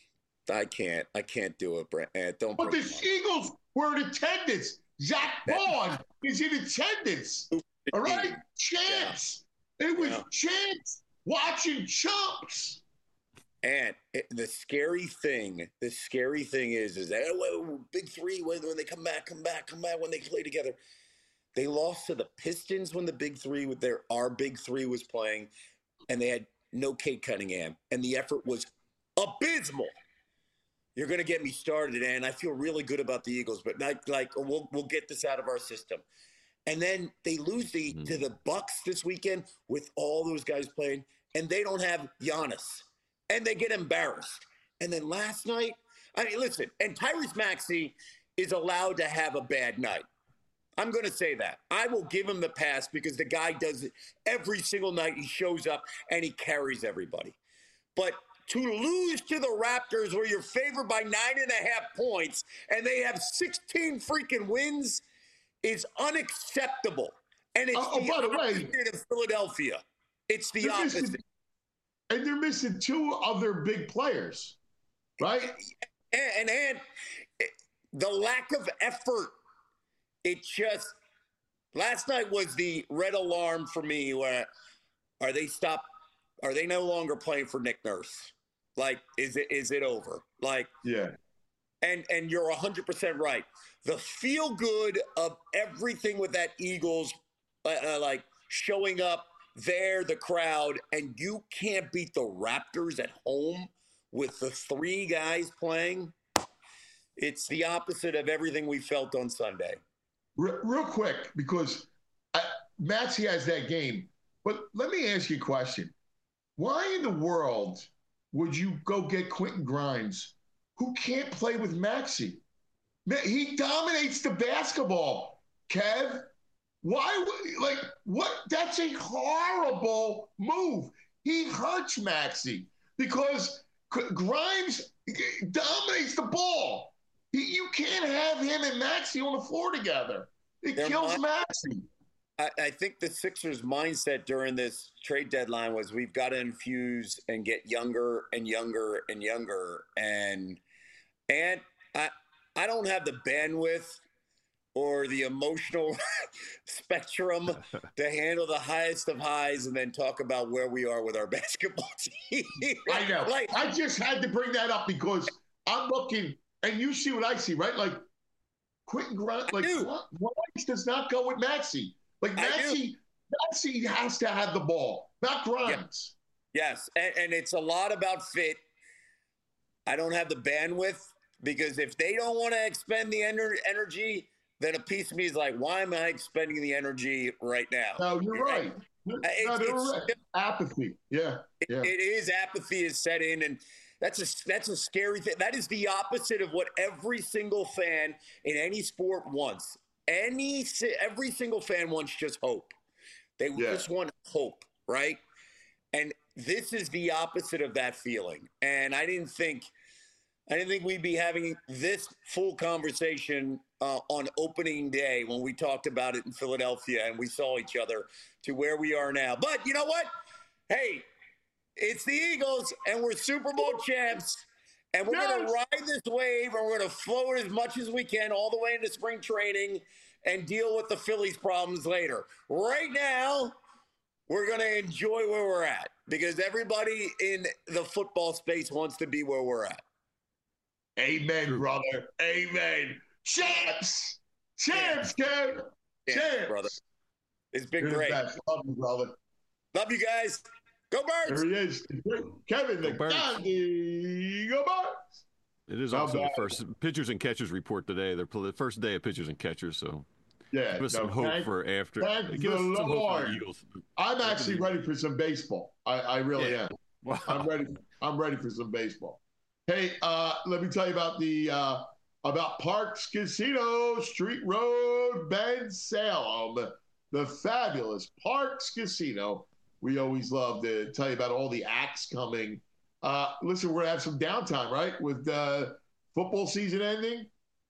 I can't. I can't do it, Brent. And don't. But the Eagles were in attendance. Zach Vaughn is in attendance. All right, Chance. Yeah. It was yeah. Chance watching chumps. And it, the scary thing, the scary thing is, is that oh, big three when, when they come back, come back, come back when they play together. They lost to the Pistons when the big three with their our big three was playing, and they had no Kate Cunningham, and the effort was abysmal. You're going to get me started, and I feel really good about the Eagles, but not like we'll we'll get this out of our system. And then they lose the, mm-hmm. to the Bucks this weekend with all those guys playing, and they don't have Giannis, and they get embarrassed. And then last night, I mean, listen, and Tyrese Maxey is allowed to have a bad night. I'm going to say that. I will give him the pass because the guy does it every single night. He shows up and he carries everybody. But to lose to the Raptors where you're favored by nine and a half points and they have sixteen freaking wins is unacceptable. And it's oh, the oh, by the way, of Philadelphia. It's the opposite. Missing, and they're missing two of their big players, right? And, and, and the lack of effort. It just, last night was the red alarm for me where are they stopped, are they no longer playing for Nick Nurse? Like, is it is it over? Like, yeah. And and you're one hundred percent right. The feel good of everything with that Eagles, uh, uh, like showing up there, the crowd, and you can't beat the Raptors at home with the three guys playing. It's the opposite of everything we felt on Sunday. Real quick, because I, Maxey has that game. But let me ask you a question. Why in the world would you go get Quentin Grimes, who can't play with Maxey? He dominates the basketball, Kev. Why would, like, what? That's a horrible move. He hurts Maxey because Grimes, dominates the ball. He, you can't have him and Maxey on the floor together. It They're kills not- Maxey. I, I think the Sixers' mindset during this trade deadline was we've got to infuse and get younger and younger and younger. And and I I don't have the bandwidth or the emotional spectrum to handle the highest of highs and then talk about where we are with our basketball team. I know. Like, I just had to bring that up because I'm looking, and you see what I see, right? Like Quentin Grimes, like do. Grimes does not go with Maxey. Like I do. Maxey, Maxey has to have the ball, not Grimes. yes, and, and it's a lot about fit. I don't have the bandwidth because if they don't want to expend the ener- energy, then a piece of me is like, why am I expending the energy right now? No, you're right. No, It's- they're it's- right. Apathy. Yeah. Yeah. It is apathy is set in, and that's a that's a scary thing. That is the opposite of what every single fan in any sport wants. Any si- every single fan wants just hope. They Yeah. just want hope, right? And this is the opposite of that feeling. And I didn't think I didn't think we'd be having this full conversation uh, on opening day when we talked about it in Philadelphia and we saw each other to where we are now. But you know what? Hey, it's the Eagles and we're Super Bowl champs. And we're going Yes. to ride this wave and we're going to float as much as we can all the way into spring training and deal with the Phillies' problems later. Right now, we're going to enjoy where we're at because everybody in the football space wants to be where we're at. Amen, True. brother. Amen. Champs. Champs, Kev. Yeah, Champs. brother. It's been You're the great. best. Love you, brother. Love you guys. Go Birds. There he is. Kevin the Go Birds. Gandhi. Go Birds. It is How also the about- first pitchers and catchers report today. They're the first day of pitchers and catchers, so Yeah. give us no, some hope thank- for after. thank Give us the some hope for Lord. the Eagles. I'm actually ready for some baseball. I, I really Yeah. am. Wow. I'm ready. I'm ready for some baseball. Hey, uh, let me tell you about the uh, about Parks Casino, Street Road, Ben Salem, the fabulous Parks Casino. We always love to tell you about all the acts coming. Uh, listen, we're gonna have some downtime, right, with uh, football season ending.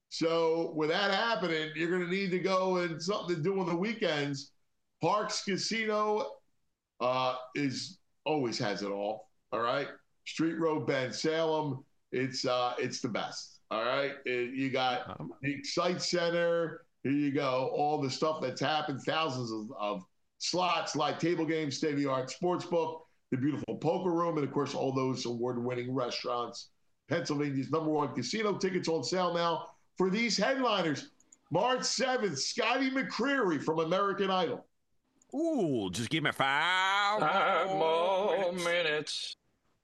So with that happening, you're gonna need to go and something to do on the weekends. Parks Casino uh, is always has it all. All right. Street Road, Ben Salem. It's uh, it's the best. All right. It- you got Um, the Excite Center. Here you go. All the stuff that's happened. Thousands of, of slots, live table games, state of the art sports book, the beautiful poker room, and of course all those award-winning restaurants. Pennsylvania's number one casino. Tickets on sale now for these headliners. March seventh, Scotty McCreery from American Idol. Ooh, just give me five, Five more more minutes. minutes.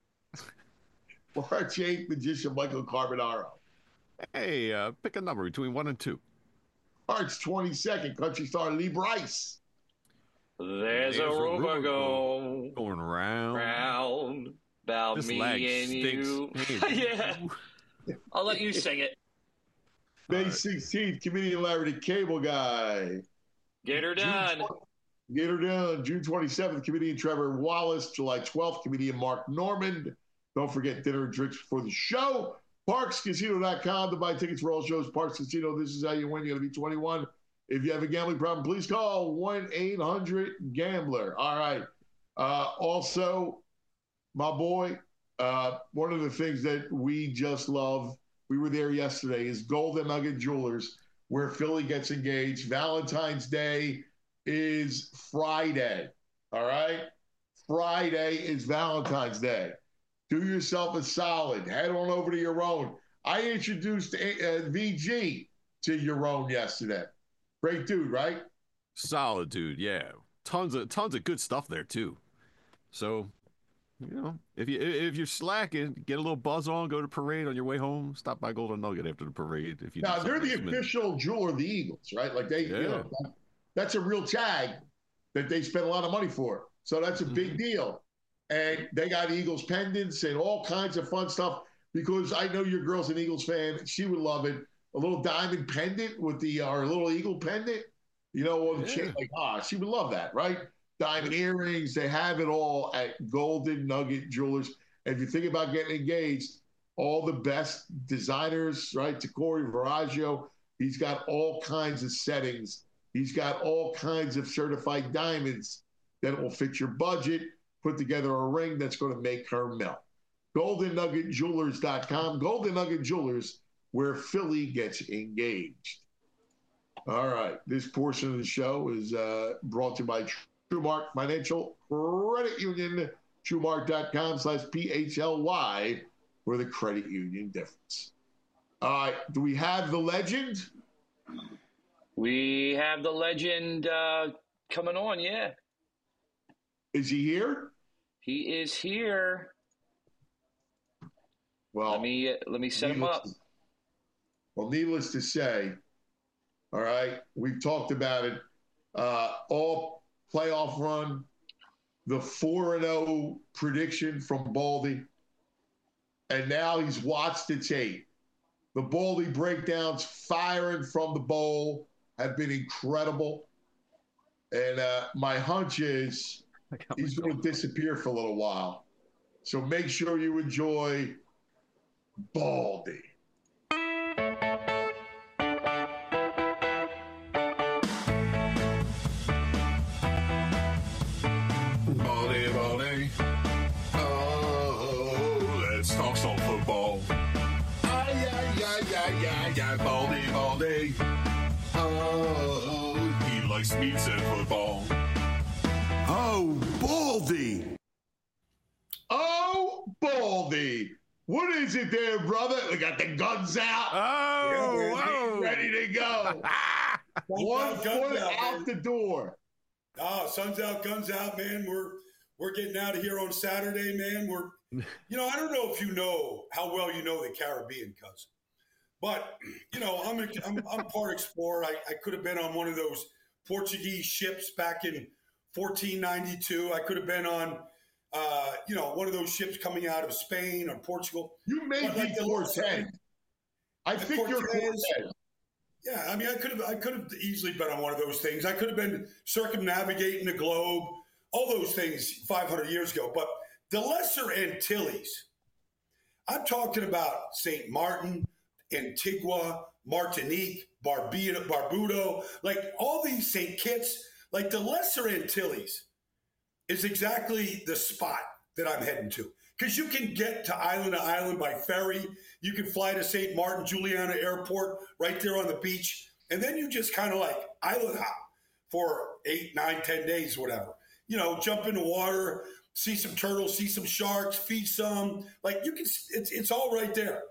March eighth, magician Michael Carbonaro. Hey, uh, pick a number between one and two. March twenty-second, country star Lee Bryce. There's, a There's a rumor rumor going Going around. round about This me lag and you. stinks. Hey, Yeah. I'll let you sing it. May right. sixteenth, comedian Larry the Cable Guy. Get her done. Get her done. June twenty-seventh, comedian Trevor Wallace. July twelfth, comedian Mark Normand. Don't forget dinner and drinks before the show. Parks Casino dot com to buy tickets for all shows. Parks Casino, this is how you win. You got to be twenty-one. If you have a gambling problem, please call one eight hundred gambler. All right. Uh, also, my boy, uh, one of the things that we just love, we were there yesterday, is Golden Nugget Jewelers, where Philly gets engaged. Valentine's Day is Friday. All right. Friday is Valentine's Day. Do yourself a solid. Head on over to your own. I introduced uh, V G to your own yesterday. Great dude, right? Solid, dude. Yeah, tons of tons of good stuff there too. So, you know, if you if you're slacking, get a little buzz on, go to parade on your way home. Stop by Golden Nugget after the parade. If you Now do they're the something last minute. official jeweler of the Eagles, right? Like they, you Yeah. know, that's a real tag that they spent a lot of money for. So that's a big Mhm. deal. And they got Eagles pendants and all kinds of fun stuff because I know your girl's an Eagles fan. She would love it. A little diamond pendant with the our little eagle pendant, you know, on the chain, Yeah. like ah, she would love that, right? Diamond earrings, they have it all at Golden Nugget Jewelers. And if you think about getting engaged, all the best designers, right? Tacori Viraggio. He's got all kinds of settings. He's got all kinds of certified diamonds that will fit your budget, put together a ring that's going to make her melt. golden nugget jewelers dot com. Golden Nugget Jewelers, where Philly gets engaged. All right. This portion of the show is uh, brought to you by TrueMark Financial Credit Union. TrueMark dot com slash P H L Y for the credit union difference. All right. Do we have the legend? We have the legend uh, coming on, yeah. Is he here? He is here. Well, let me let me set him up. To, well, needless to say, all right, we've talked about it. Uh, all playoff run, the four and oh prediction from Baldy, and now he's watched the tape. The Baldy breakdowns firing from the bowl have been incredible. And uh, my hunch is he's going to disappear for a little while. So make sure you enjoy Baldy. Baldy, Baldy. Oh, let's talk some football. Ay, ay, ay, ay, ay, ay, Baldy, Baldy. Oh, he likes meats and football. Oh, Baldy. Oh, Baldy. What is it there, brother? We got the guns out. Oh, yeah, whoa. Ready to go. One foot out, out the door. Oh, sun's out, guns out, man. We're we're getting out of here on Saturday, man. We're, you know, I don't know if you know how well you know the Caribbean, cuz, but you know, I'm a, I'm, I'm part explorer. I, I could have been on one of those Portuguese ships back in fourteen ninety-two. I could have been on, uh, you know, one of those ships coming out of Spain or Portugal. You may But be like the Cortez. I The think you're Cortez. Cortez. Yeah, I mean, I could have, I could have easily been on one of those things. I could have been circumnavigating the globe, all those things five hundred years ago. But the Lesser Antilles, I'm talking about Saint Martin, Antigua, Martinique, Barbuda, Barbudo, like all these Saint Kitts, like the Lesser Antilles is exactly the spot that I'm heading to. Because you can get to island to island by ferry. You can fly to Saint Martin, Juliana Airport, right there on the beach. And then you just kind of like island hop for eight, nine, ten days, whatever. You know, jump in the water, see some turtles, see some sharks, feed some. Like you can, it's, it's all right there.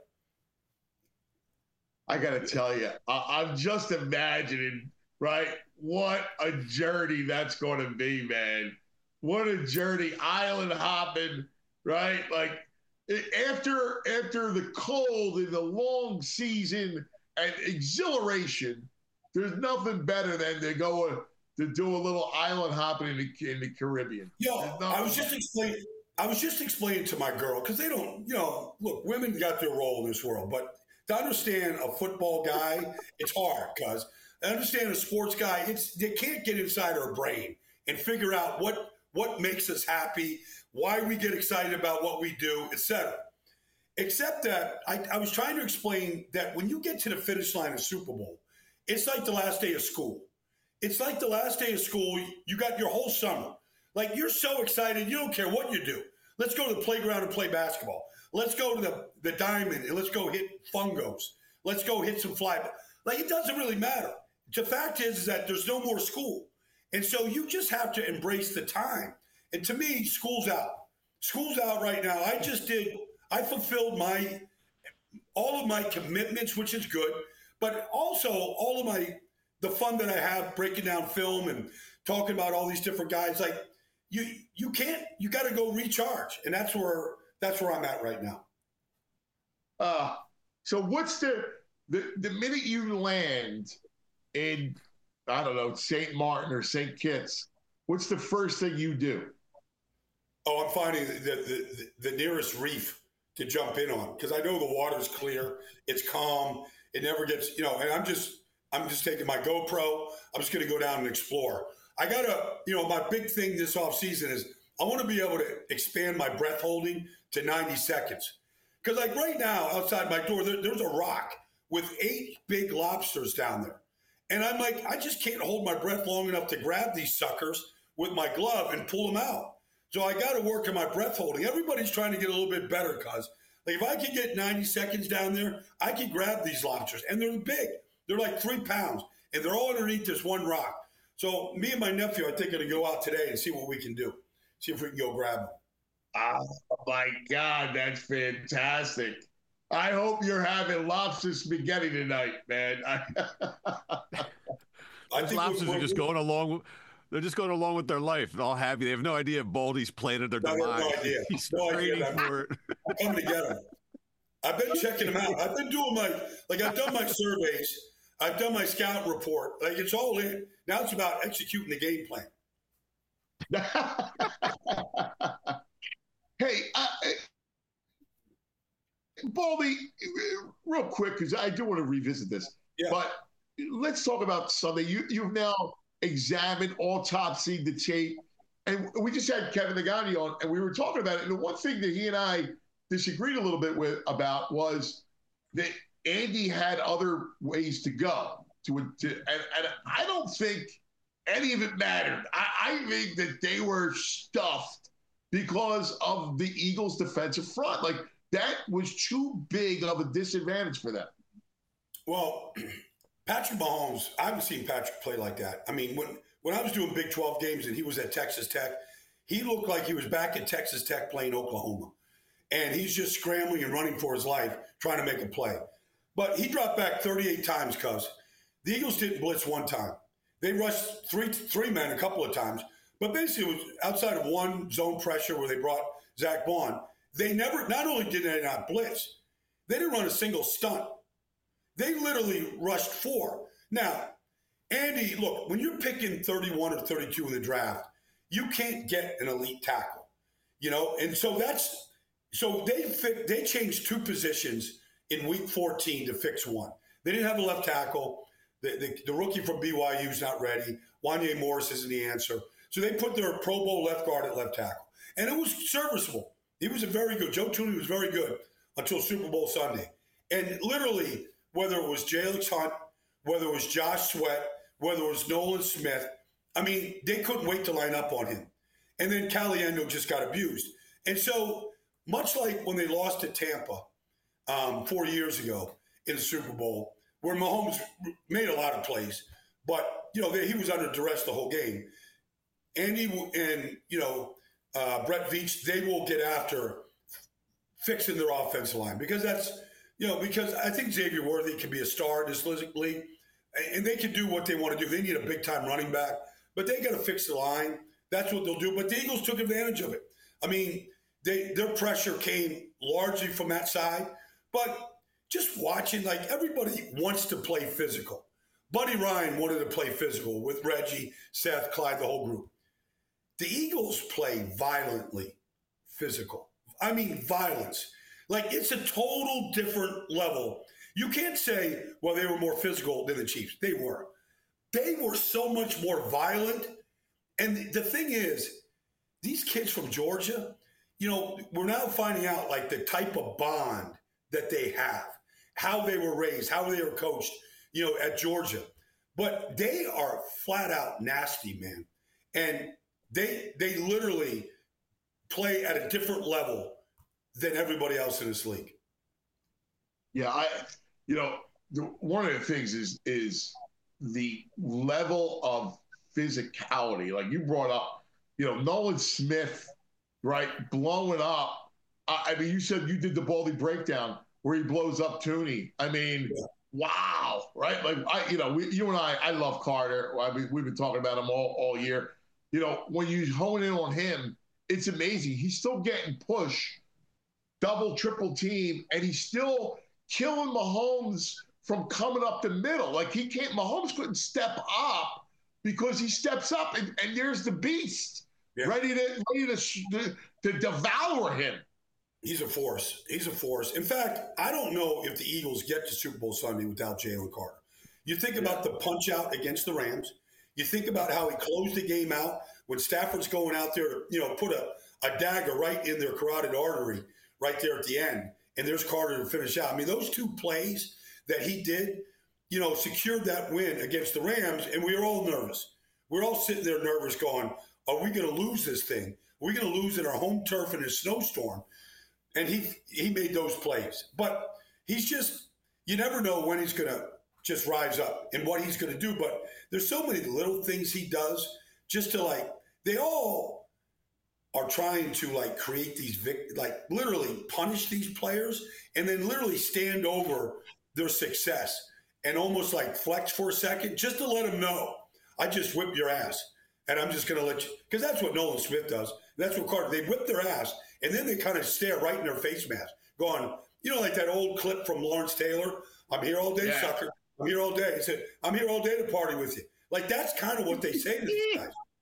I got to tell you, I, I'm just imagining, right, what a journey that's going to be, man. What a journey, island hopping, right? Like after after the cold and the long season and exhilaration, there's nothing better than to go to do a little island hopping in the, in the Caribbean. Yo, I was just explaining. I was just explaining to my girl because they don't, you know, look, women got their role in this world, but to understand a football guy, it's hard. Cause I understand a sports guy, it's they can't get inside our brain and figure out what what makes us happy, why we get excited about what we do, et cetera. Except that I, I was trying to explain that when you get to the finish line of Super Bowl, it's like the last day of school. It's like the last day of school. You got your whole summer. Like you're so excited, you don't care what you do. Let's go to the playground and play basketball. Let's go to the, the diamond and let's go hit fungos. Let's go hit some fly. Like it doesn't really matter. The fact is, is that there's no more school. And so you just have to embrace the time. And to me, school's out. School's out right now. I just did, I fulfilled my, all of my commitments, which is good, but also all of my, the fun that I have breaking down film and talking about all these different guys. Like you, you can't, you got to go recharge. And that's where, that's where I'm at right now. Uh, so what's the, the, the minute you land in, I don't know, Saint Martin or Saint Kitts, what's the first thing you do? Oh, I'm finding the, the, the nearest reef to jump in on because I know the water's clear, it's calm, it never gets, you know, and I'm just, I'm just taking my GoPro, I'm just going to go down and explore. I got to, you know, my big thing this off season is I want to be able to expand my breath holding to ninety seconds Because like right now, outside my door, there, there's a rock with eight big lobsters down there. And I'm like, I just can't hold my breath long enough to grab these suckers with my glove and pull them out. So I got to work on my breath holding. Everybody's trying to get a little bit better, cuz. Like if I could get ninety seconds down there, I could grab these lobsters. And they're big. They're like three pounds. And they're all underneath this one rock. So me and my nephew, I think, are going to go out today and see what we can do. See if we can go grab them. Oh, my God. That's fantastic. I hope you're having lobster spaghetti tonight, man. I think lobsters we're, are just we're, going along. They're just going along with their life. They're all happy. They have no idea if Baldy's planted their No, demise. no idea. He's No training idea. for it. I'm coming to get them. I've been checking them out. I've been doing my, like I've done my surveys. I've done my scout report. Like it's all in. Now it's about executing the game plan. Hey, uh, Baldy, real quick, because I do want to revisit this. Yeah. But let's talk about Sunday. You, you've now examined, autopsied the tape. And we just had Kevin Nagani on, and we were talking about it. And the one thing that he and I disagreed a little bit with about was that Andy had other ways to go. To, to and, and I don't think any of it mattered. I, I think that they were stuffed because of the Eagles' defensive front. Like, that was too big of a disadvantage for them. Well, Patrick Mahomes, I haven't seen Patrick play like that. I mean, when, when I was doing Big twelve games and he was at Texas Tech, he looked like he was back at Texas Tech playing Oklahoma. And he's just scrambling and running for his life, trying to make a play. But he dropped back thirty-eight times, cuz the Eagles didn't blitz one time. They rushed three three men a couple of times. But basically, it was outside of one zone pressure where they brought Zach Bond. They never, not only did they not blitz, they didn't run a single stunt. They literally rushed four. Now, Andy, look, when you're picking thirty-one or thirty-two in the draft, you can't get an elite tackle, you know? And so that's, so they fit, they changed two positions in week fourteen to fix one. They didn't have a left tackle. The, the, the rookie from B Y U is not ready. Wanye Morris isn't the answer. So they put their Pro Bowl left guard at left tackle. And it was serviceable. He was a very good. Joe Thuney was very good until Super Bowl Sunday. And literally, whether it was Jalen Hunt, whether it was Josh Sweat, whether it was Nolan Smith, I mean, they couldn't wait to line up on him. And then Caliendo just got abused. And so, much like when they lost to Tampa um, four years ago in the Super Bowl, where Mahomes made a lot of plays, but, you know, they, he was under duress the whole game. Andy and, you know, uh, Brett Veach, they will get after fixing their offensive line because that's, you know, because I think Xavier Worthy can be a star in this league and they can do what they want to do. They need a big time running back, but they got to fix the line. That's what they'll do. But the Eagles took advantage of it. I mean, they their pressure came largely from that side, but just watching, like, everybody wants to play physical. Buddy Ryan wanted to play physical with Reggie, Seth, Clyde, the whole group. The Eagles play violently physical. I mean, violence. Like, it's a total different level. You can't say, well, they were more physical than the Chiefs. They were. They were so much more violent. And the thing is, these kids from Georgia, you know, we're now finding out, like, the type of bond that they have, how they were raised, how they were coached, you know, at Georgia. But they are flat out nasty, man. And they they literally play at a different level than everybody else in this league. Yeah, I, you know, the, one of the things is is the level of physicality. Like you brought up, you know, Nolan Smith, right, blowing up. I, I mean, you said you did the Baldy breakdown where he blows up Thuney. I mean, yeah. Wow, right? Like I, you know, we, you and I, I love Carter. I mean, we've been talking about him all all year. You know, when you hone in on him, it's amazing. He's still getting pushed, double, triple team, and he's still killing Mahomes from coming up the middle. Like he can't, Mahomes couldn't step up because he steps up and, and there's the beast yeah. ready to ready to, to to devour him. He's a force. He's a force. In fact, I don't know if the Eagles get to Super Bowl Sunday without Jalen Carter. You think yeah. about the punch out against the Rams. You think about how he closed the game out when Stafford's going out there to, you know, put a, a dagger right in their carotid artery right there at the end. and there's Carter to finish out. I mean, those two plays that he did, you know, secured that win against the Rams, and we were all nervous. We're all sitting there nervous going, are we going to lose this thing? Are we going to lose in our home turf in a snowstorm? And he he made those plays. But he's just, you never know when he's going to just rise up and what he's going to do. But there's so many little things he does just to, like, they all are trying to, like, create these, vic- like, literally punish these players and then literally stand over their success and almost, like, flex for a second just to let them know, I just whipped your ass. And I'm just going to let you, because that's what Nolan Smith does. That's what Carter, they whip their ass, and then they kind of stare right in their face mask, going, you know, like that old clip from Lawrence Taylor, I'm here all day, Yeah. sucker. I'm here all day. He said, I'm here all day to party with you. Like, that's kind of what they say to these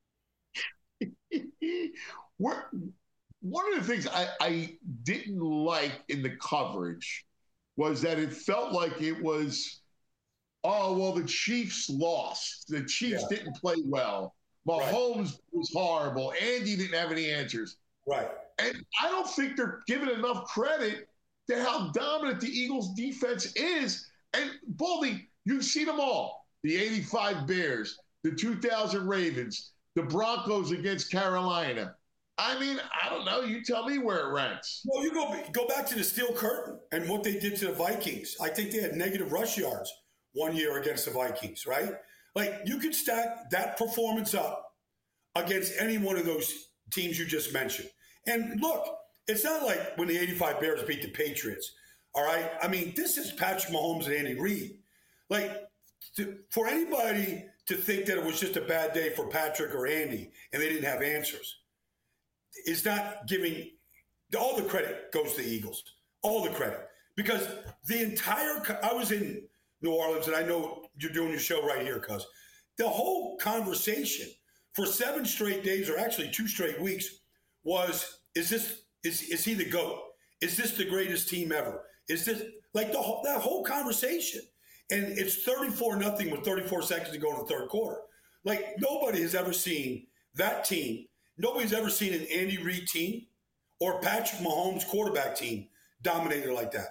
guys. We're, one of the things I, I didn't like in the coverage was that it felt like it was, oh, well, the Chiefs lost. The Chiefs Yeah. didn't play well. Mahomes right. was horrible. Andy didn't have any answers. Right. And I don't think they're giving enough credit to how dominant the Eagles' defense is. And, Baldy, you've seen them all. The eighty-five Bears, the two thousand Ravens, the Broncos against Carolina. I mean, I don't know. You tell me where it ranks. Well, you go go back to the Steel Curtain and what they did to the Vikings. I think they had negative rush yards one year against the Vikings, right? Like, you could stack that performance up against any one of those teams you just mentioned. And look, it's not like when the eighty-five Bears beat the Patriots, all right? I mean, this is Patrick Mahomes and Andy Reid. Like, to, for anybody to think that it was just a bad day for Patrick or Andy and they didn't have answers is not giving – all the credit goes to the Eagles. All the credit. Because the entire – I was in – New Orleans, and I know you're doing your show right here, cuz the whole conversation for seven straight days, or actually two straight weeks, was: Is this is is he the GOAT? Is this the greatest team ever? Is this like the whole, that whole conversation? And it's thirty-four nothing with thirty-four seconds to go in the third quarter. Like, nobody has ever seen that team. Nobody's ever seen an Andy Reid team or Patrick Mahomes quarterback team dominated like that.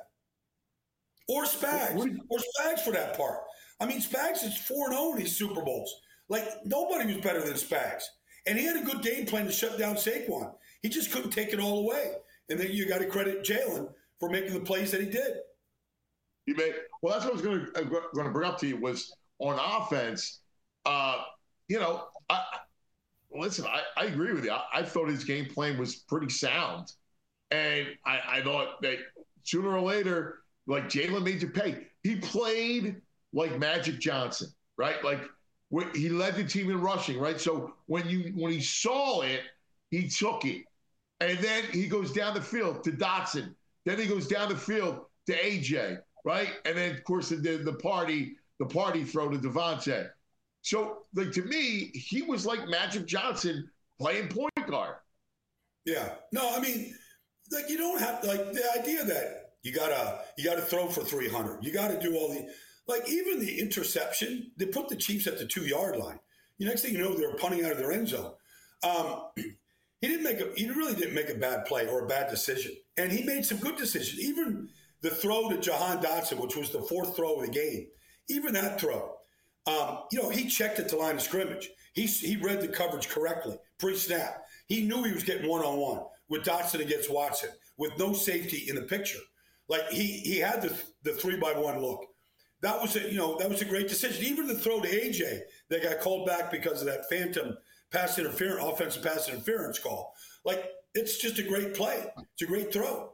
Or Spags, or Spags for that part. I mean, Spags is four and oh in these Super Bowls. Like, nobody was better than Spags. And he had a good game plan to shut down Saquon. He just couldn't take it all away. And then you got to credit Jalen for making the plays that he did. You may, well, that's what I was going to, uh, going to bring up to you was on offense. Uh, you know, I, listen, I, I agree with you. I, I thought his game plan was pretty sound. And I, I thought that sooner or later, like, Jalen made you pay. He played like Magic Johnson, right? Like, he led the team in rushing, right? So when you when he saw it, he took it. And then he goes down the field to Dotson. Then he goes down the field to A J, right? And then, of course, the the party the party throw to Devontae. So, like, to me, he was like Magic Johnson playing point guard. Yeah. No, I mean, like, you don't have, like, the idea that You gotta you gotta throw for three hundred. You gotta do all the, like, even the interception. They put the Chiefs at the two yard line. The next thing you know, they're punting out of their end zone. Um, he didn't make a he really didn't make a bad play or a bad decision, and he made some good decisions. Even the throw to Jahan Dotson, which was the fourth throw of the game, even that throw, um, you know, he checked at the line of scrimmage. He he read the coverage correctly pre-snap. He knew he was getting one on one with Dotson against Watson with no safety in the picture. Like, he he had the the three by one look. That was a you know that was a great decision. Even the throw to A J that got called back because of that phantom pass interference, offensive pass interference call. Like, it's just a great play. It's a great throw.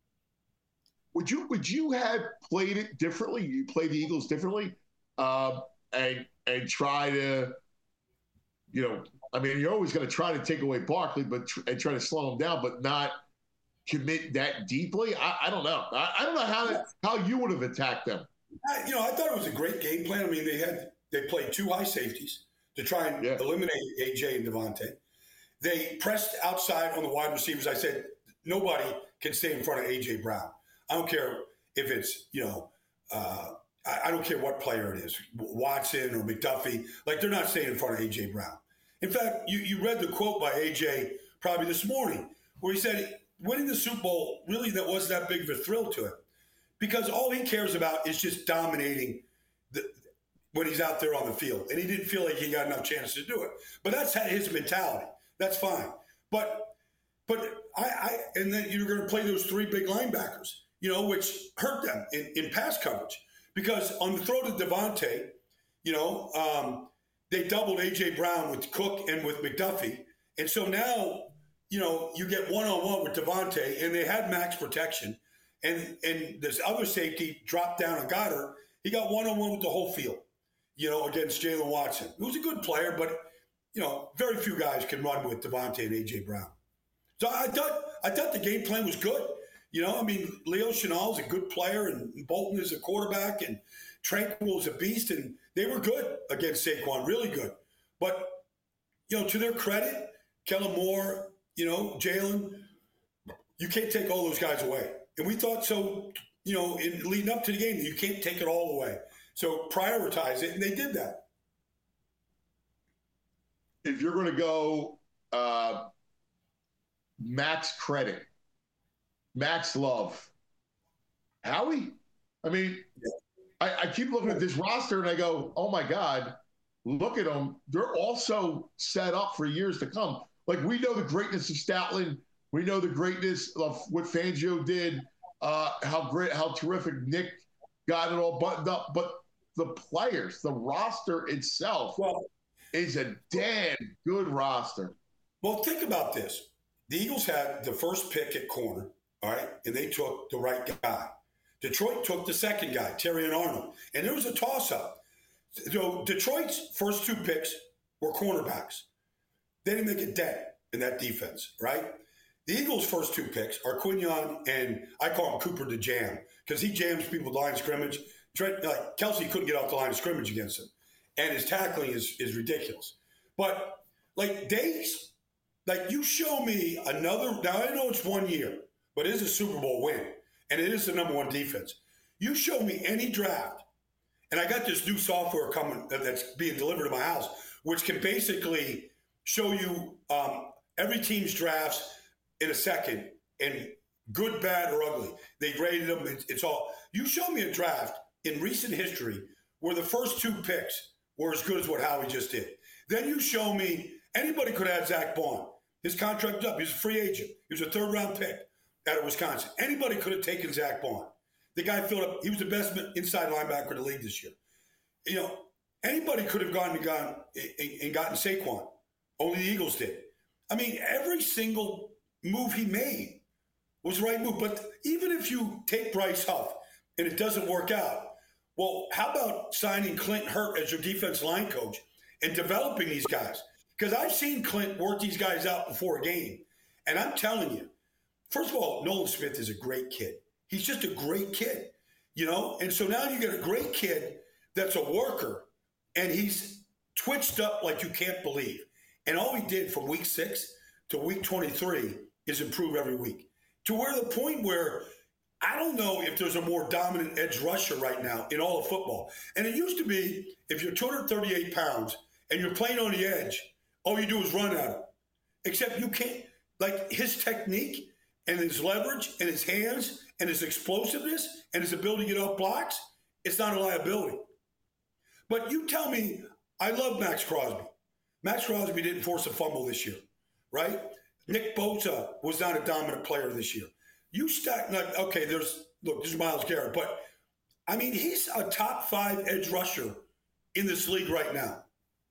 Would you would you have played it differently? You play the Eagles differently, uh, and and try to, you know, I mean, you're always going to try to take away Barkley, but tr- and try to slow him down, but not commit that deeply. I, I don't know. I, I don't know how to, how you would have attacked them. I, you know, I thought it was a great game plan. I mean, they had they played two high safeties to try and yeah. eliminate A J and Devontae. They pressed outside on the wide receivers. I said, nobody can stay in front of A J Brown. I don't care if it's, you know, uh, I, I don't care what player it is, Watson or McDuffie. Like, they're not staying in front of A J Brown. In fact, you, you read the quote by A J probably this morning where he said, winning the Super Bowl, really that wasn't that big of a thrill to him because all he cares about is just dominating the, when he's out there on the field. And he didn't feel like he got enough chance to do it. But that's his mentality. That's fine. But but I, I and then you're going to play those three big linebackers, you know, which hurt them in, in pass coverage. Because on the throw to Devontae, you know, um, they doubled A J. Brown with Cook and with McDuffie. And so now, you know, you get one-on-one with Devontae, and they had max protection. And and this other safety dropped down and got her. He got one-on-one with the whole field, you know, against Jalen Watson, who's a good player, but, you know, very few guys can run with Devontae and A J. Brown. So I thought I thought the game plan was good. You know, I mean, Leo Chenal is a good player, and Bolton is a quarterback, and Tranquil is a beast, and they were good against Saquon, really good. But, you know, to their credit, Kellen Moore, you know, Jalen, you can't take all those guys away. And we thought so, you know, in leading up to the game, you can't take it all away. So prioritize it, and they did that. If you're going to go uh, max credit, max love, Howie? I mean, I, I keep looking at this roster and I go, oh my God, look at them. They're also set up for years to come. Like, we know the greatness of Stoutland. We know the greatness of what Fangio did, uh, how great, how terrific Nick got it all buttoned up. But the players, the roster itself well, is a damn good roster. Well, think about this. The Eagles had the first pick at corner, all right, and they took the right guy. Detroit took the second guy, Terrion Arnold, and there was a toss-up. So Detroit's first two picks were cornerbacks. They didn't make a dent in that defense, right? The Eagles' first two picks are Quinion and I call him Cooper the Jam because he jams people at the line of scrimmage. Trent, like Kelsey couldn't get off the line of scrimmage against him, and his tackling is is ridiculous. But like they, like you show me another. Now I know it's one year, but it is a Super Bowl win, and it is the number one defense. You show me any draft, and I got this new software coming that's being delivered to my house, which can basically show you um, every team's drafts in a second, and good, bad, or ugly. They graded them. It's, it's all. You show me a draft in recent history where the first two picks were as good as what Howie just did. Then you show me anybody could have Zach Bond. His contract up. He's a free agent. He was a third-round pick out of Wisconsin. Anybody could have taken Zach Bond. The guy filled up. He was the best inside linebacker in the league this year. You know, anybody could have gone and gone and gotten Saquon. Only the Eagles did. I mean, every single move he made was the right move. But even if you take Bryce Huff and it doesn't work out, well, how about signing Clint Hurt as your defense line coach and developing these guys? Because I've seen Clint work these guys out before a game. And I'm telling you, first of all, Nolan Smith is a great kid. He's just a great kid, you know? And so now you get a great kid that's a worker, and he's twitched up like you can't believe. And all he did from week six to week twenty-three is improve every week to where the point where I don't know if there's a more dominant edge rusher right now in all of football. And it used to be if you're two hundred thirty-eight pounds and you're playing on the edge, all you do is run at him. Except you can't, like his technique and his leverage and his hands and his explosiveness and his ability to get off blocks, it's not a liability. But you tell me, I love Max Crosby. Max Crosby didn't force a fumble this year, right? Nick Bosa was not a dominant player this year. You stack, like, okay, there's, look, this is Myles Garrett, but, I mean, he's a top five edge rusher in this league right now.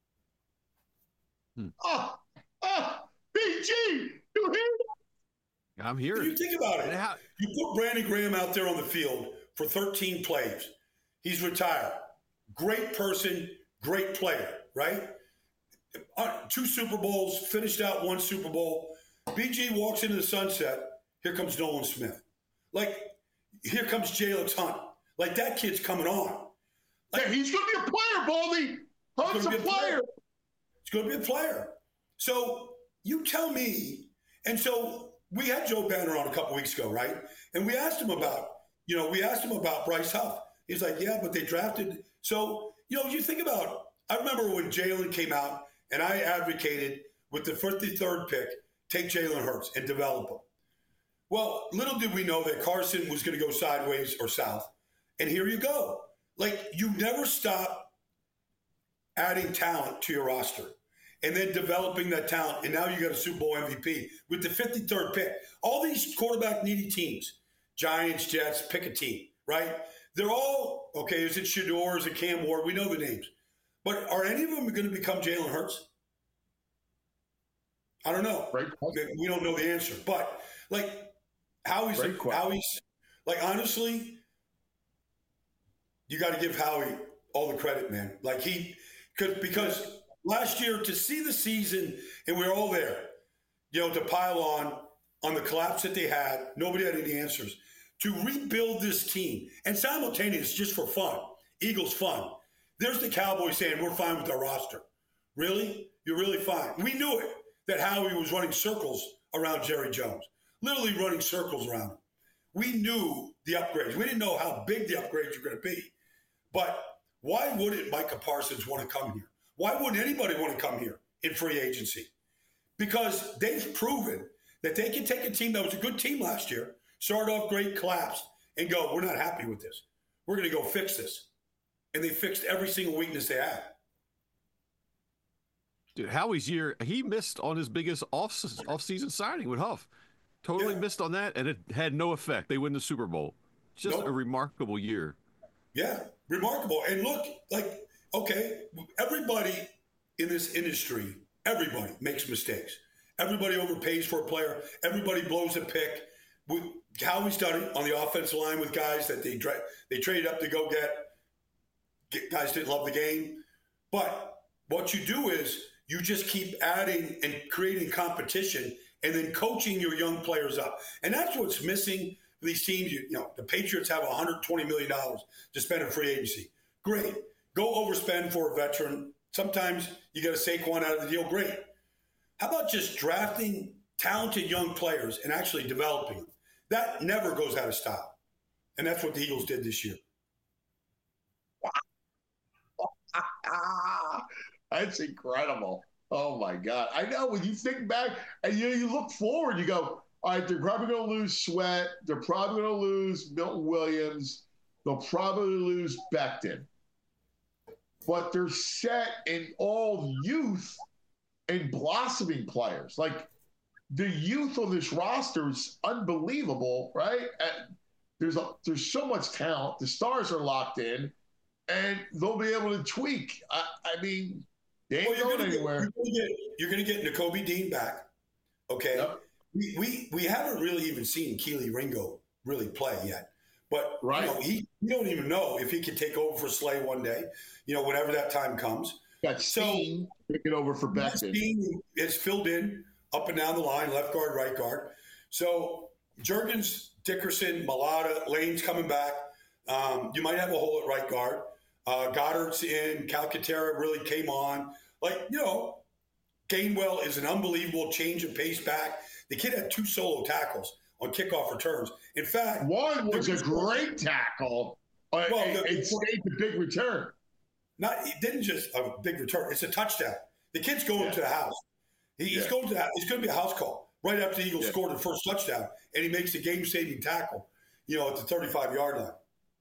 Hmm. Oh, oh, B G, you hear that? I'm here. You think about it. How- you put Brandon Graham out there on the field for thirteen plays. He's retired. Great person, great player, right? Uh, two Super Bowls, finished out one Super Bowl. B G walks into the sunset. Here comes Nolan Smith. Like, here comes Jalen Hunt. Like, that kid's coming on. Like, yeah, he's going to be a player, Baldy. Hunt's a player. player. He's going to be a player. So you tell me. And so we had Joe Banner on a couple weeks ago, right? And we asked him about, you know, we asked him about Bryce Huff. He's like, yeah, but they drafted. So, you know, you think about, I remember when Jalen came out and I advocated with the fifty-third pick, take Jalen Hurts and develop him. Well, little did we know that Carson was going to go sideways or south. And here you go. Like, you never stop adding talent to your roster and then developing that talent. And now you got a Super Bowl M V P with the fifty-third pick. All these quarterback needy teams, Giants, Jets, pick a team, right? They're all, okay, is it Shador, is it Cam Ward? We know the names. But are any of them going to become Jalen Hurts? I don't know. Right. We don't know the answer. But, like, Howie's, Howie's, like, honestly, you got to give Howie all the credit, man. Like, he could, because last year to see the season, and we we're all there, you know, to pile on, on the collapse that they had, nobody had any answers. To rebuild this team, and simultaneous, just for fun, Eagles fun. There's the Cowboys saying, we're fine with our roster. Really? You're really fine. We knew it, that Howie was running circles around Jerry Jones, literally running circles around him. We knew the upgrades. We didn't know how big the upgrades were going to be. But why wouldn't Micah Parsons want to come here? Why wouldn't anybody want to come here in free agency? Because they've proven that they can take a team that was a good team last year, start off great, collapsed, and go, we're not happy with this. We're going to go fix this. And they fixed every single weakness they had. Dude, Howie's year, he missed on his biggest off off-season signing with Huff. Totally yeah. missed on that, and it had no effect. They win the Super Bowl. Just nope. a remarkable year. Yeah, remarkable. And look, like, okay, everybody in this industry, everybody makes mistakes. Everybody overpays for a player. Everybody blows a pick. We, Howie's done it on the offensive line with guys that they dra- they traded up to go get. get. Guys didn't love the game. But what you do is you just keep adding and creating competition and then coaching your young players up. And that's what's missing for these teams. You, you know, the Patriots have one hundred twenty million dollars to spend in free agency. Great. Go overspend for a veteran. Sometimes you get a Saquon out of the deal. Great. How about just drafting talented young players and actually developing them? That never goes out of style. And that's what the Eagles did this year. That's incredible. Oh, my God. I know when you think back and you, you look forward, you go, all right, they're probably going to lose Sweat. They're probably going to lose Milton Williams. They'll probably lose Becton. But they're set in all youth and blossoming players. Like, the youth on this roster is unbelievable, right? And there's a, there's so much talent. The stars are locked in, and they'll be able to tweak. I, I mean, they ain't well, going anywhere. Get, you're going to get Nakobe Dean back, okay? Yep. We, we we haven't really even seen Keely Ringo really play yet. But right. you know, he, we don't even know if he can take over for Slay one day, you know, whenever that time comes. Got Steen so, taking over for Becton. Steen is filled in up and down the line, left guard, right guard. So Juergens, Dickerson, Mailata, Lane's coming back. Um, you might have a hole at right guard. Uh, Goddard's in. Calcaterra really came on. Like, you know, Gainwell is an unbelievable change of pace back. The kid had two solo tackles on kickoff returns. In fact, one was a great tackle. Uh, well, it, the, it saved the big return. Not, it didn't just a big return. It's a touchdown. The kid's going yeah. to the house. He, he's yeah. going to. It's going to be a house call right after the Eagles yeah. scored the first touchdown, and he makes the game-saving tackle. You know, at the thirty-five yard line.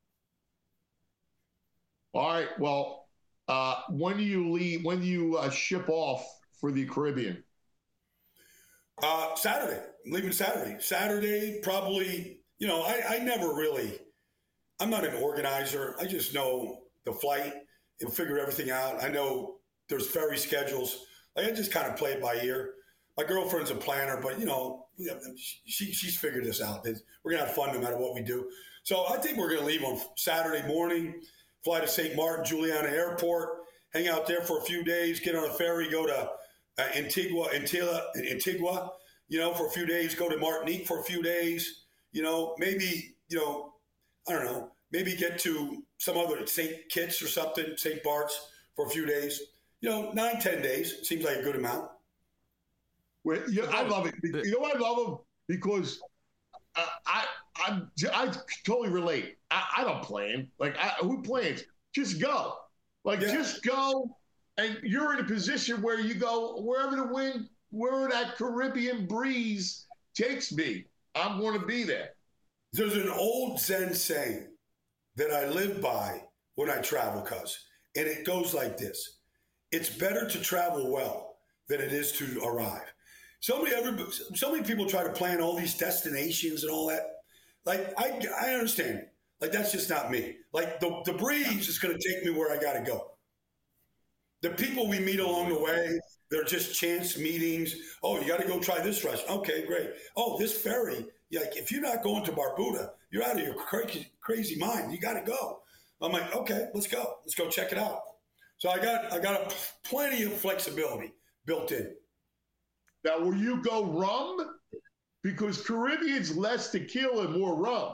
All right. Well, uh, when do you leave? When do you uh, ship off for the Caribbean? Uh, Saturday. I'm leaving Saturday. Saturday, probably. You know, I, I never really. I'm not an organizer. I just know the flight and figure everything out. I know there's ferry schedules. Like, I just kind of play it by ear. My girlfriend's a planner, but, you know, she she's figured this out. We're going to have fun no matter what we do. So I think we're going to leave on Saturday morning, fly to Saint Martin, Juliana Airport, hang out there for a few days, get on a ferry, go to uh, Antigua, Antigua, Antigua, you know, for a few days, go to Martinique for a few days, you know, maybe, you know, I don't know, maybe get to some other Saint Kitts or something, Saint Bart's for a few days. You know, nine, ten days seems like a good amount. Well, yeah, I love it. You know why I love them? Because uh, I, I, I totally relate. I, I don't plan. Like, I, who plans? Just go. Like, yeah. just go, and you're in a position where you go wherever the wind, where that Caribbean breeze takes me. I'm going to be there. There's an old Zen saying that I live by when I travel, cuz, and it goes like this: it's better to travel well than it is to arrive. So many, every, so many people try to plan all these destinations and all that. Like, I, I understand. Like, that's just not me. Like, the, the breeze is going to take me where I got to go. The people we meet along the way, they're just chance meetings. Oh, you got to go try this restaurant. Okay, great. Oh, this ferry. Like, if you're not going to Barbuda, you're out of your crazy, crazy mind. You got to go. I'm like, okay, let's go. Let's go check it out. So I got, I got a, plenty of flexibility built in. Now, will you go rum? Because Caribbean's less tequila and more rum.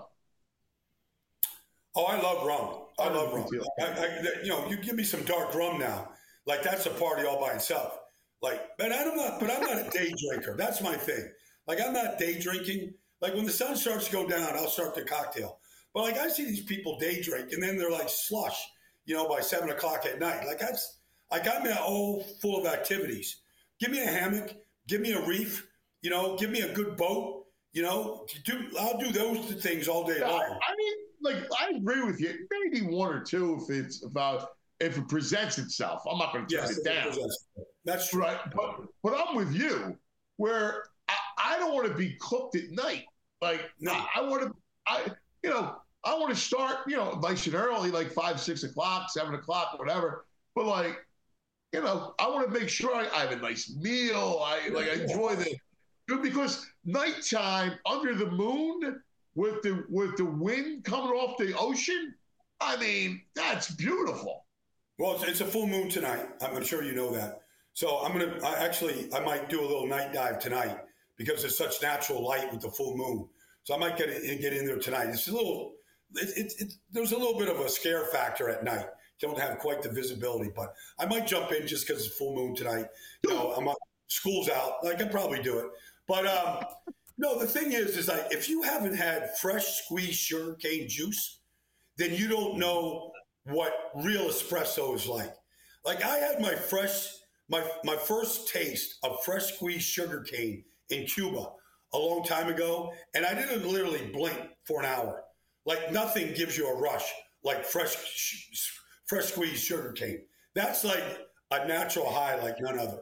Oh, I love rum. I love rum. I, I, you know, you give me some dark rum now, like that's a party all by itself. Like, but I'm not. But I'm not a day drinker. That's my thing. Like, I'm not day drinking. Like, when the sun starts to go down, I'll start the cocktail. But like, I see these people day drink, and then they're like slush, you know, by seven o'clock at night. Like, that's like I'm all full of activities. Give me a hammock. Give me a reef. You know, give me a good boat. You know, do, I'll do those things all day long. I mean, like, I agree with you. Maybe one or two if it's about if it presents itself. I'm not going to turn Yes, it down. That's true. Right, but but I'm with you. Where I, I don't want to be cooked at night. Like, No. I, I want to. I you know I want to start. You know, nice and early, like five, six o'clock, seven o'clock, whatever. But like, you know, I want to make sure I, I have a nice meal. I like I enjoy the. Because nighttime under the moon with the with the wind coming off the ocean, I mean, that's beautiful. Well, it's, it's a full moon tonight. I'm sure you know that. So I'm gonna I actually I might do a little night dive tonight because there's such natural light with the full moon. So I might get in, get in there tonight. It's a little it, it, it, there's a little bit of a scare factor at night. You don't have quite the visibility, but I might jump in just because it's full moon tonight. You know, I'm school's out. I can probably do it. But um, no, the thing is, is like if you haven't had fresh squeezed sugarcane juice, then you don't know what real espresso is like. Like I had my fresh, my my first taste of fresh squeezed sugarcane in Cuba a long time ago, and I didn't literally blink for an hour. Like nothing gives you a rush like fresh, fresh squeezed sugarcane. That's like a natural high like none other.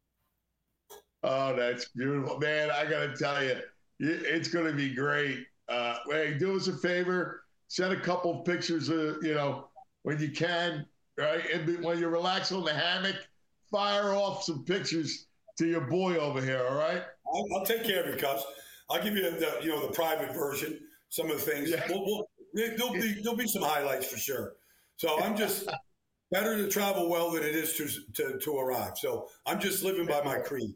Oh, that's beautiful, man! I got to tell you, it's going to be great. Uh, hey, do us a favor, send a couple of pictures of you know when you can, right? And when you're relaxing on the hammock, fire off some pictures to your boy over here. All right? I'll, I'll take care of you, cuz. I'll give you the you know the private version. Some of the things. Yeah. We'll, we'll, there'll be there'll be some highlights for sure. So I'm just better to travel well than it is to to, to arrive. So I'm just living by my creed.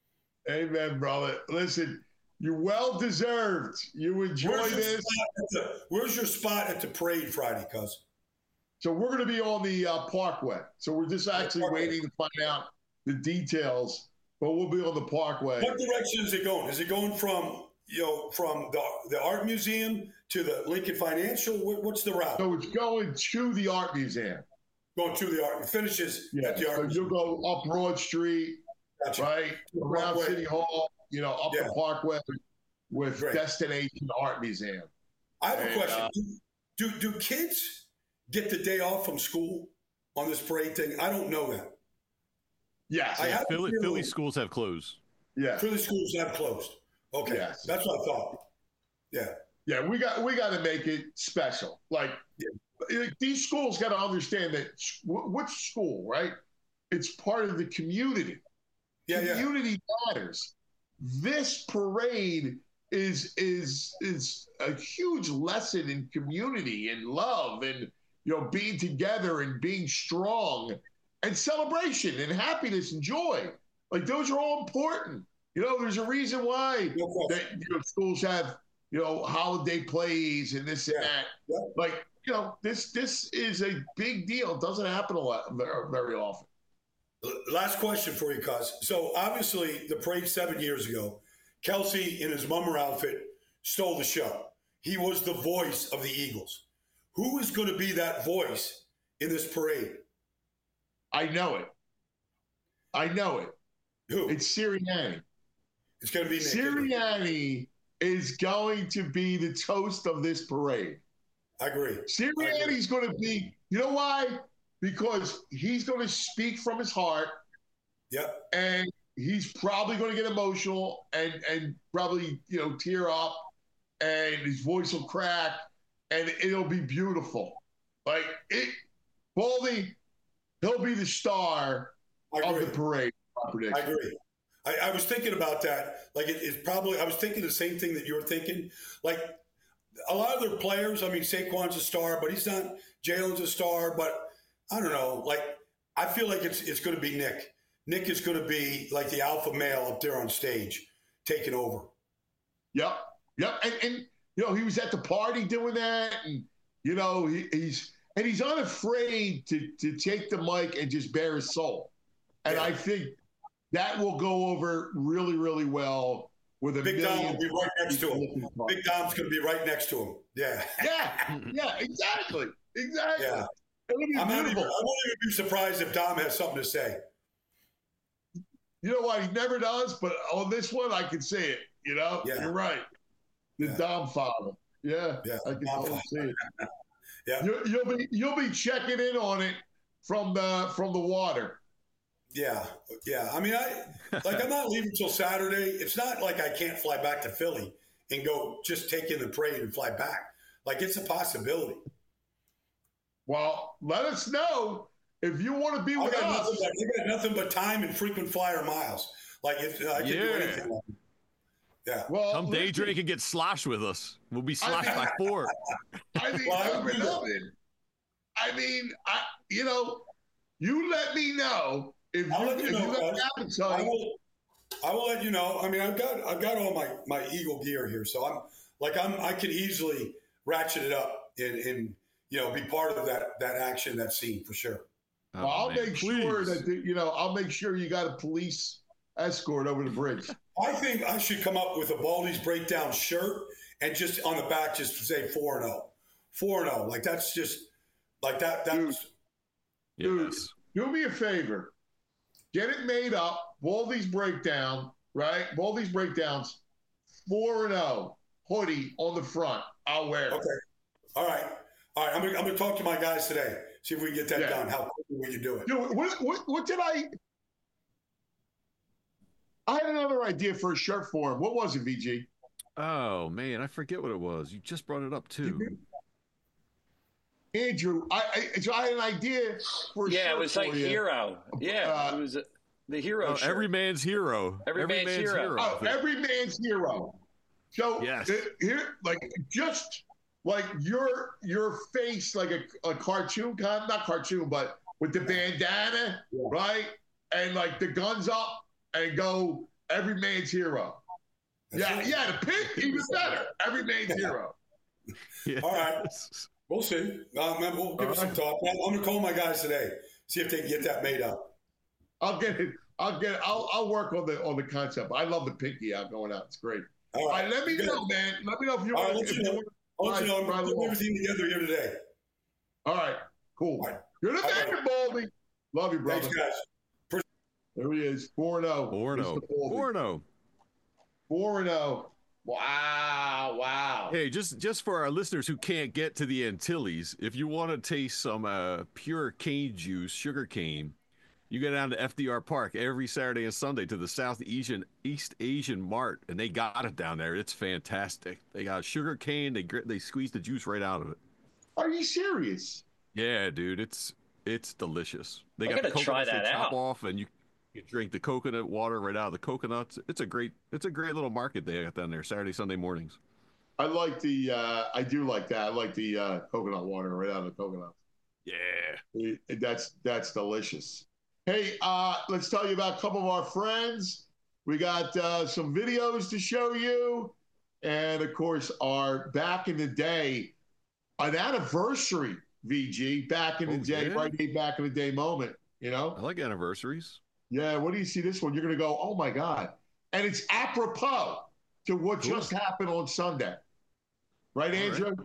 Amen, brother. Listen, you're well deserved. You enjoy Where's your this. spot at the, where's your spot at the parade Friday, cuz? So we're going to be on the uh, Parkway. So we're just actually Parkway. waiting to find out the details, but we'll be on the Parkway. What direction is it going? Is it going from you know from the the art museum to the Lincoln Financial? What, what's the route? So it's going to the art museum. Going to the art. It finishes Yeah. at the art So museum. you'll go up Broad Street, Gotcha. right around Parkway. City Hall. You know, up Yeah. the Parkway with Great. Destination Art Museum. I have a And, question. uh, do, do do kids get the day off from school on this parade thing? I don't know that. Yes. I have a Philly, feeling Philly schools have closed. yeah. Philly schools have closed. Okay, Yes. that's what I thought. Yeah, Yeah. We got we got to make it special. Like Yeah. these schools got to understand that wh- which school, right? It's part of the community. yeah, yeah. Community matters. This parade is is is a huge lesson in community and love and you know being together and being strong and celebration and happiness and joy. Like those are all important. You know, there's a reason why No question. that you know, schools have you know holiday plays and this and Yeah. that. Yeah. Like you know, this this is a big deal. It doesn't happen a lot very often. Last question for you, cuz. So obviously, the parade seven years ago, Kelsey in his mummer outfit stole the show. He was the voice of the Eagles. Who is going to be that voice in this parade? I know it. I know it. Who? It's Sirianni. It's going to be Nick. Sirianni is going to be the toast of this parade. I agree. Sirianni's going to be, you know why? Because he's going to speak from his heart. Yep. And he's probably going to get emotional and, and probably, you know, tear up, and his voice will crack, and it'll be beautiful. Like, it, Baldy, he'll be the star of the parade. I agree. I, I was thinking about that. Like, it, it's probably, I was thinking the same thing that you're thinking. Like, a lot of their players, I mean, Saquon's a star, but he's not, Jalen's a star, but I don't know. Like, I feel like it's it's going to be Nick. Nick is going to be like the alpha male up there on stage, taking over. Yep. Yep. And, and you know, he was at the party doing that. And, you know, he, he's, and he's unafraid to, to take the mic and just bare his soul. And yeah. I think that will go over really, really well with a Big million. Dom will be right next to him. Big Dom's going to be right next to him. Yeah. Yeah. Yeah, exactly. Exactly. Yeah. I'm not even, I won't even be surprised if Dom has something to say. You know what? He never does, but on this one, I can see it. You know? Yeah. You're right. The Yeah. Dom father. Yeah. Yeah. I can totally see it. Yeah. You, you'll be you'll be checking in on it from the from the water. Yeah, yeah. I mean, I like I'm not leaving till Saturday. It's not like I can't fly back to Philly and go just take in the parade and fly back. Like, it's a possibility. Well, let us know if you want to be I with got us. nothing but, I got nothing but time and frequent flyer miles. Like, if I can do Yeah. anything. Yeah. Well, Come day listen, drink and get sloshed with us. We'll be sloshed I- by four. I mean, Well, I I'm would do that. loving. I mean, I you know, you let me know if you, I'll let you if know, you have guys. I appetite. will. I will let you know. I mean, I've got I've got all my, my Eagle gear here, so I'm like I'm I could easily ratchet it up and, and you know be part of that that action, that scene for sure. Well, I'll Oh, man, make sure please. that the, you know I'll make sure you got a police escort over the bridge. I think I should come up with a Baldy's breakdown shirt and just on the back just say four and zero, four and zero. Like that's just like that. That's Dude, Yes. do me a favor. Get it made up. Baldy's breakdown, right? Baldy's breakdowns, four and zero hoodie on the front. I'll wear it. okay. All right, all right. I'm gonna, I'm gonna talk to my guys today. See if we can get that Yeah. done. How quickly we can do it. Dude, what, what, what did I? I had another idea for a shirt for him. What was it, V G? Oh man, I forget what it was. You just brought it up too. Andrew, I, I, so I had an idea for a Yeah, shirt it was for like you. Hero. Yeah, Uh, it was uh, the Hero Oh, shirt. every man's hero. Every man's hero. Oh, every man's hero. So Yes. uh, here, like, just like your your face, like a, a cartoon, kind not cartoon, but with the bandana, Yeah. right, and like the guns up, and go every man's hero. That's yeah, it. yeah, the pink even better. Every man's hero. Yes. All right. We'll see. Uh, man, we'll give All it some right. thought. I'm going to call my guys today, see if they can get that made up. I'll get it. I'll get. I'll I'll work on the on the concept. I love the pinky out going out. It's great. All All right. right, let me Good. know, man. Let me know if you All right, want. let If you you know. want I'll let you know. I'm Right, putting right. everything together here today. All right, cool. All right. You're the All right. man, Baldy. Love you, brother. Thanks, guys. There he is, four and zero. Four and oh. Four and oh. Four and zero. Wow, wow. Hey, just just for our listeners who can't get to the Antilles, if you want to taste some uh, pure cane juice, sugar cane, you go down to F D R Park every Saturday and Sunday to the South Asian East Asian Mart, and they got it down there. It's fantastic. They got sugar cane. They grit, they squeeze the juice right out of it. Are you serious? Yeah, dude, it's it's delicious. They I got the gotta try coconuts they that chop out. off, and you you drink the coconut water right out of the coconuts. It's a great it's a great little market they got down there Saturday Sunday mornings. I like the. Uh, I do like that. I like the uh, coconut water right out of the coconut. Yeah. It- That's that's delicious. Hey, uh, let's tell you about a couple of our friends. We got uh, some videos to show you, and of course, our back in the day, an anniversary V G back in the Oh, day, yeah? right? Back in the day moment. You know. I like anniversaries. Yeah, what do you see this one? You're going to go, oh my God. And it's apropos to what Cool. just happened on Sunday. Right, All Andrew? right.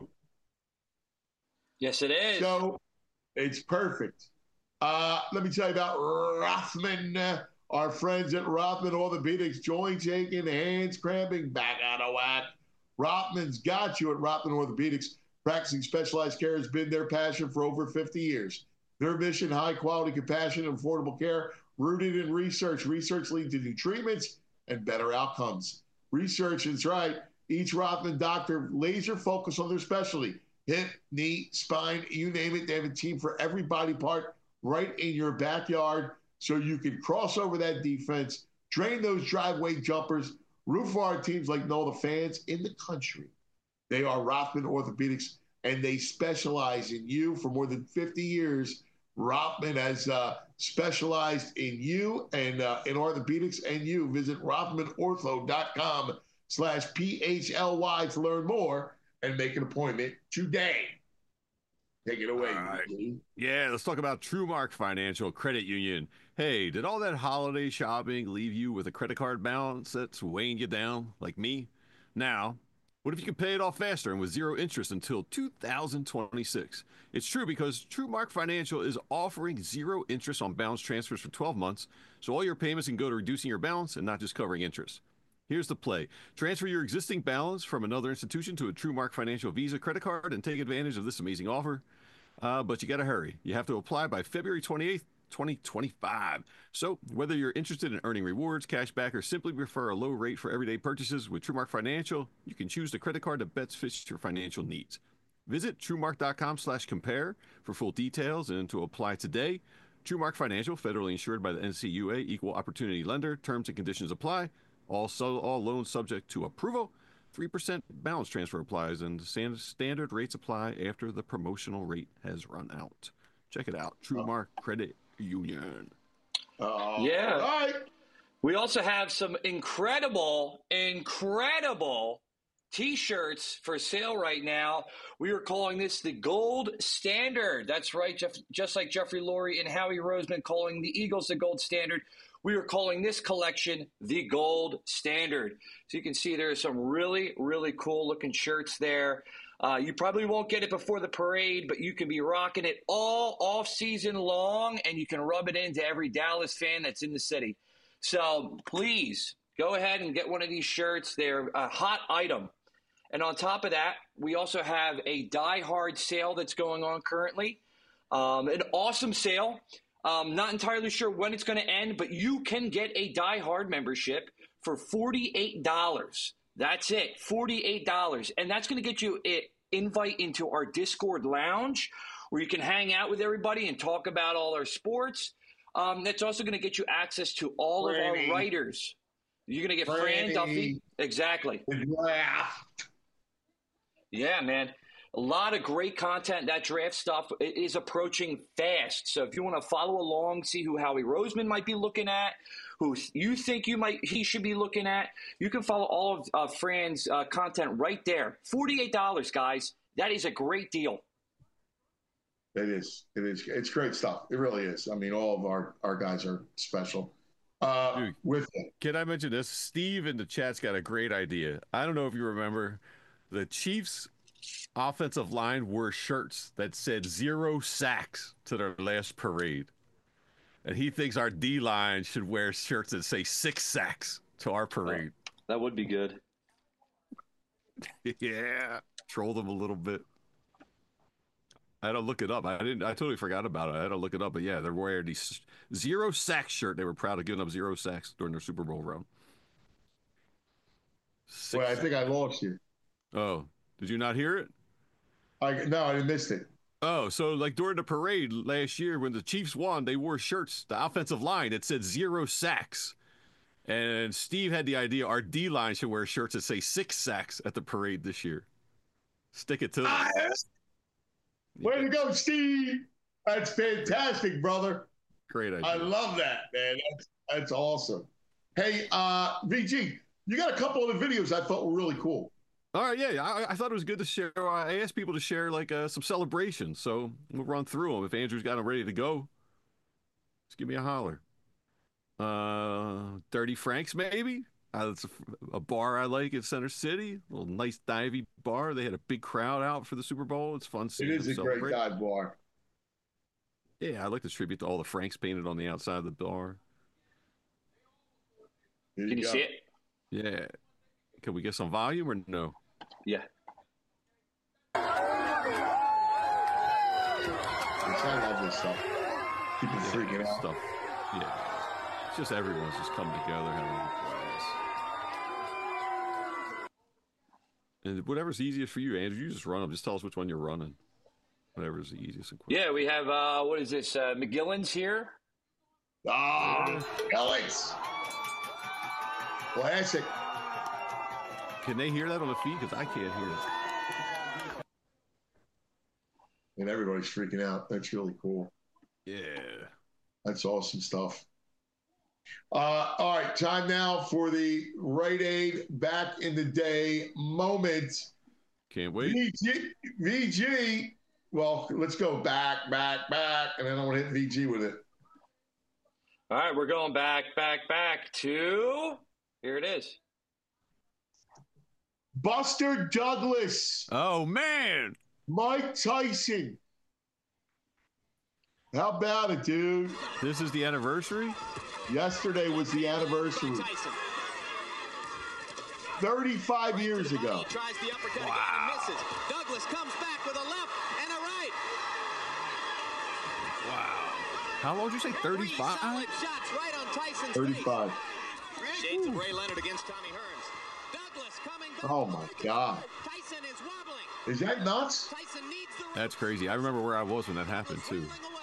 Yes, it is. So it's perfect. Uh, let me tell you about Rothman. Uh, our friends at Rothman Orthopedics, joint shaking, hands cramping, back out of whack, Rothman's got you at Rothman Orthopedics. Practicing specialized care has been their passion for over fifty years. Their mission, high quality, compassionate, and affordable care, rooted in research. Research leads to new treatments and better outcomes. Research is right. Each Rothman doctor laser focus on their specialty. Hip, knee, spine, you name it. They have a team for every body part right in your backyard so you can cross over that defense, drain those driveway jumpers, root for our teams like no other fans in the country. They are Rothman Orthopedics, and they specialize in you for more than fifty years. Rothman has uh, specialized in you and uh, in orthopedics and you. Visit rothman ortho dot com slash P H L Y to learn more and make an appointment today. Take it away. All right. Yeah, let's talk about TrueMark Financial Credit Union. Hey, did all that holiday shopping leave you with a credit card balance that's weighing you down like me? Now, what if you could pay it off faster and with zero interest until two thousand twenty-six? It's true because TrueMark Financial is offering zero interest on balance transfers for twelve months, so all your payments can go to reducing your balance and not just covering interest. Here's the play. Transfer your existing balance from another institution to a TrueMark Financial Visa credit card and take advantage of this amazing offer. Uh, but you got to hurry. You have to apply by February twenty-eighth, twenty twenty-five. So whether you're interested in earning rewards, cash back, or simply prefer a low rate for everyday purchases with TrueMark Financial, you can choose the credit card that best fits your financial needs. Visit truemark dot com slash compare for full details and to apply today. TrueMark Financial, federally insured by the N C U A, equal opportunity lender. Terms and conditions apply. Also, all loans subject to approval. three percent balance transfer applies, and standard rates apply after the promotional rate has run out. Check it out. TrueMark Credit Union. Uh, Yeah. All right. We also have some incredible, incredible T-shirts for sale right now. We are calling this the Gold Standard. That's right, Jeff, just like Jeffrey Lurie and Howie Roseman calling the Eagles the Gold Standard. We are calling this collection the Gold Standard. So you can see there are some really, really cool looking shirts there. Uh, you probably won't get it before the parade, but you can be rocking it all off season long, and you can rub it into every Dallas fan that's in the city. So please go ahead and get one of these shirts. They're a hot item. And on top of that, we also have a Die Hard sale that's going on currently. Um, an awesome sale. Um, not entirely sure when it's going to end, but you can get a Die Hard membership for forty-eight dollars. That's it, forty-eight dollars. And that's going to get you an invite into our Discord lounge where you can hang out with everybody and talk about all our sports. Um, that's also going to get you access to all Franny. of our writers. You're going to get Fran Franny. Duffy. Exactly. The draft. Yeah, man. A lot of great content. That draft stuff is approaching fast. So if you want to follow along, see who Howie Roseman might be looking at, who you think you might he should be looking at, you can follow all of uh, Fran's uh, content right there. forty-eight dollars, guys. That is a great deal. It is. It is. It's great stuff. It really is. I mean, all of our, our guys are special. Uh, Dude, with can I mention this? Steve in the chat's got a great idea. I don't know if you remember, the Chiefs offensive line wore shirts that said zero sacks to their last parade. And he thinks our D-line should wear shirts that say six sacks to our parade. Oh, that would be good. Yeah. Troll them a little bit. I had to look it up. I didn't. I totally forgot about it. I had to look it up. But yeah, they're wearing these zero sack shirt. They were proud of giving up zero sacks during their Super Bowl run. Six well, I think I lost you. Oh, did you not hear it? I no, I missed it. Oh, so like during the parade last year when the Chiefs won, they wore shirts, the offensive line, it said zero sacks. And Steve had the idea our D-line should wear shirts that say six sacks at the parade this year. Stick it to them. Ah, way to go, Steve. That's fantastic, brother. Great idea. I love that, man. That's, that's awesome. Hey, uh, V G, you got a couple of the videos I thought were really cool. All right, yeah, I, I thought it was good to share. I asked people to share like uh, some celebrations, so we'll run through them. If Andrew's got them ready to go, just give me a holler. Uh, Dirty Frank's, maybe. Uh, it's a, a bar I like in Center City. A little nice divey bar. They had a big crowd out for the Super Bowl. It's fun seeing It is them a celebrate. great dive bar. Yeah, I like the tribute to all the Franks painted on the outside of the bar. Here Can you go. see it? Yeah. Can we get some volume or no? Yeah. I love this stuff. People Yeah, freaking out. Stuff. Yeah. It's just everyone's just coming together, having a blast. And whatever's easiest for you, Andrew, you just run them. Just tell us which one you're running. Whatever's the easiest and quickest. Yeah, we have, uh, what is this, uh, McGillen's here? Ah, Alex. Classic. Can they hear that on the feed? Because I can't hear it. And everybody's freaking out. That's really cool. Yeah. That's awesome stuff. Uh, all right, time now for the Rite Aid back in the day moment. Can't wait. V G, V G. Well, let's go back, back, back, and then I want to hit V G with it. All right, we're going back, back, back to, here it is. Buster Douglas. Oh, man. Mike Tyson. How about it, dude? This is the anniversary? Yesterday was the anniversary. thirty-five years ago. Tries the uppercut Wow. again and misses. Douglas comes back with a left and a right. Wow. How long did you say? thirty-five? Three solid shots right on Tyson's thirty-five. face. Shades of Ray Leonard against Tommy Hearns. Douglas coming back. Oh, my God. Tyson is wobbling. Is that nuts? Tyson needs the That's crazy. I remember where I was when that happened, too. rolling away.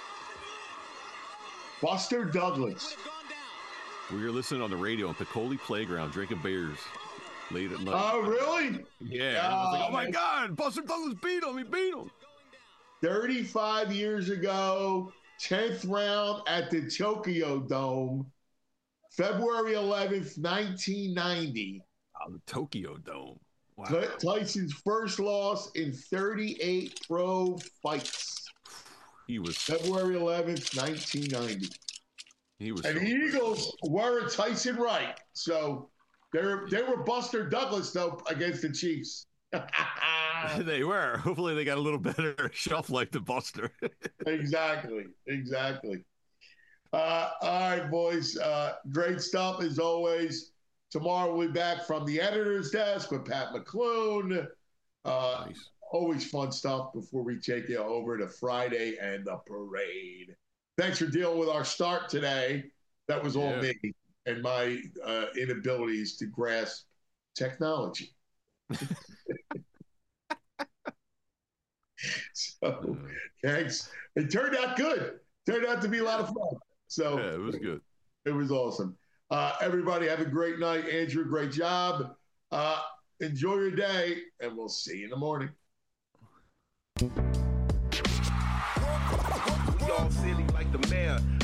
Buster Would Douglas. have gone down. We were listening on the radio on Piccoli Playground, drinking beers late at night. Oh, really? yeah. And I was like, oh, my man. God. Buster Douglas beat him. He beat him. thirty-five years ago, tenth round at the Tokyo Dome, February eleventh, nineteen ninety. Oh, the Tokyo Dome. Wow. Ty- Tyson's first loss in thirty-eight pro fights. He was, February eleventh, nineteen ninety. he was. And so the Eagles were a Tyson Wright. So they were, they were Buster Douglas, though, against the Chiefs. They were. Hopefully they got a little better shelf life than Buster. Exactly. Exactly. Uh, all right, boys. Uh, great stuff as always. Tomorrow we'll be back from the editor's desk with Pat McClune. Uh, Nice. Always fun stuff before we take you over to Friday and the parade. Thanks for dealing with our start today. That was all Yeah. me and my uh, inabilities to grasp technology. So, thanks. It turned out good. Turned out to be a lot of fun. So Yeah, it was good. it was awesome. Uh, everybody have a great night. Andrew, great job. Uh, enjoy your day, and we'll see you in the morning. Y'all silly like the mayor.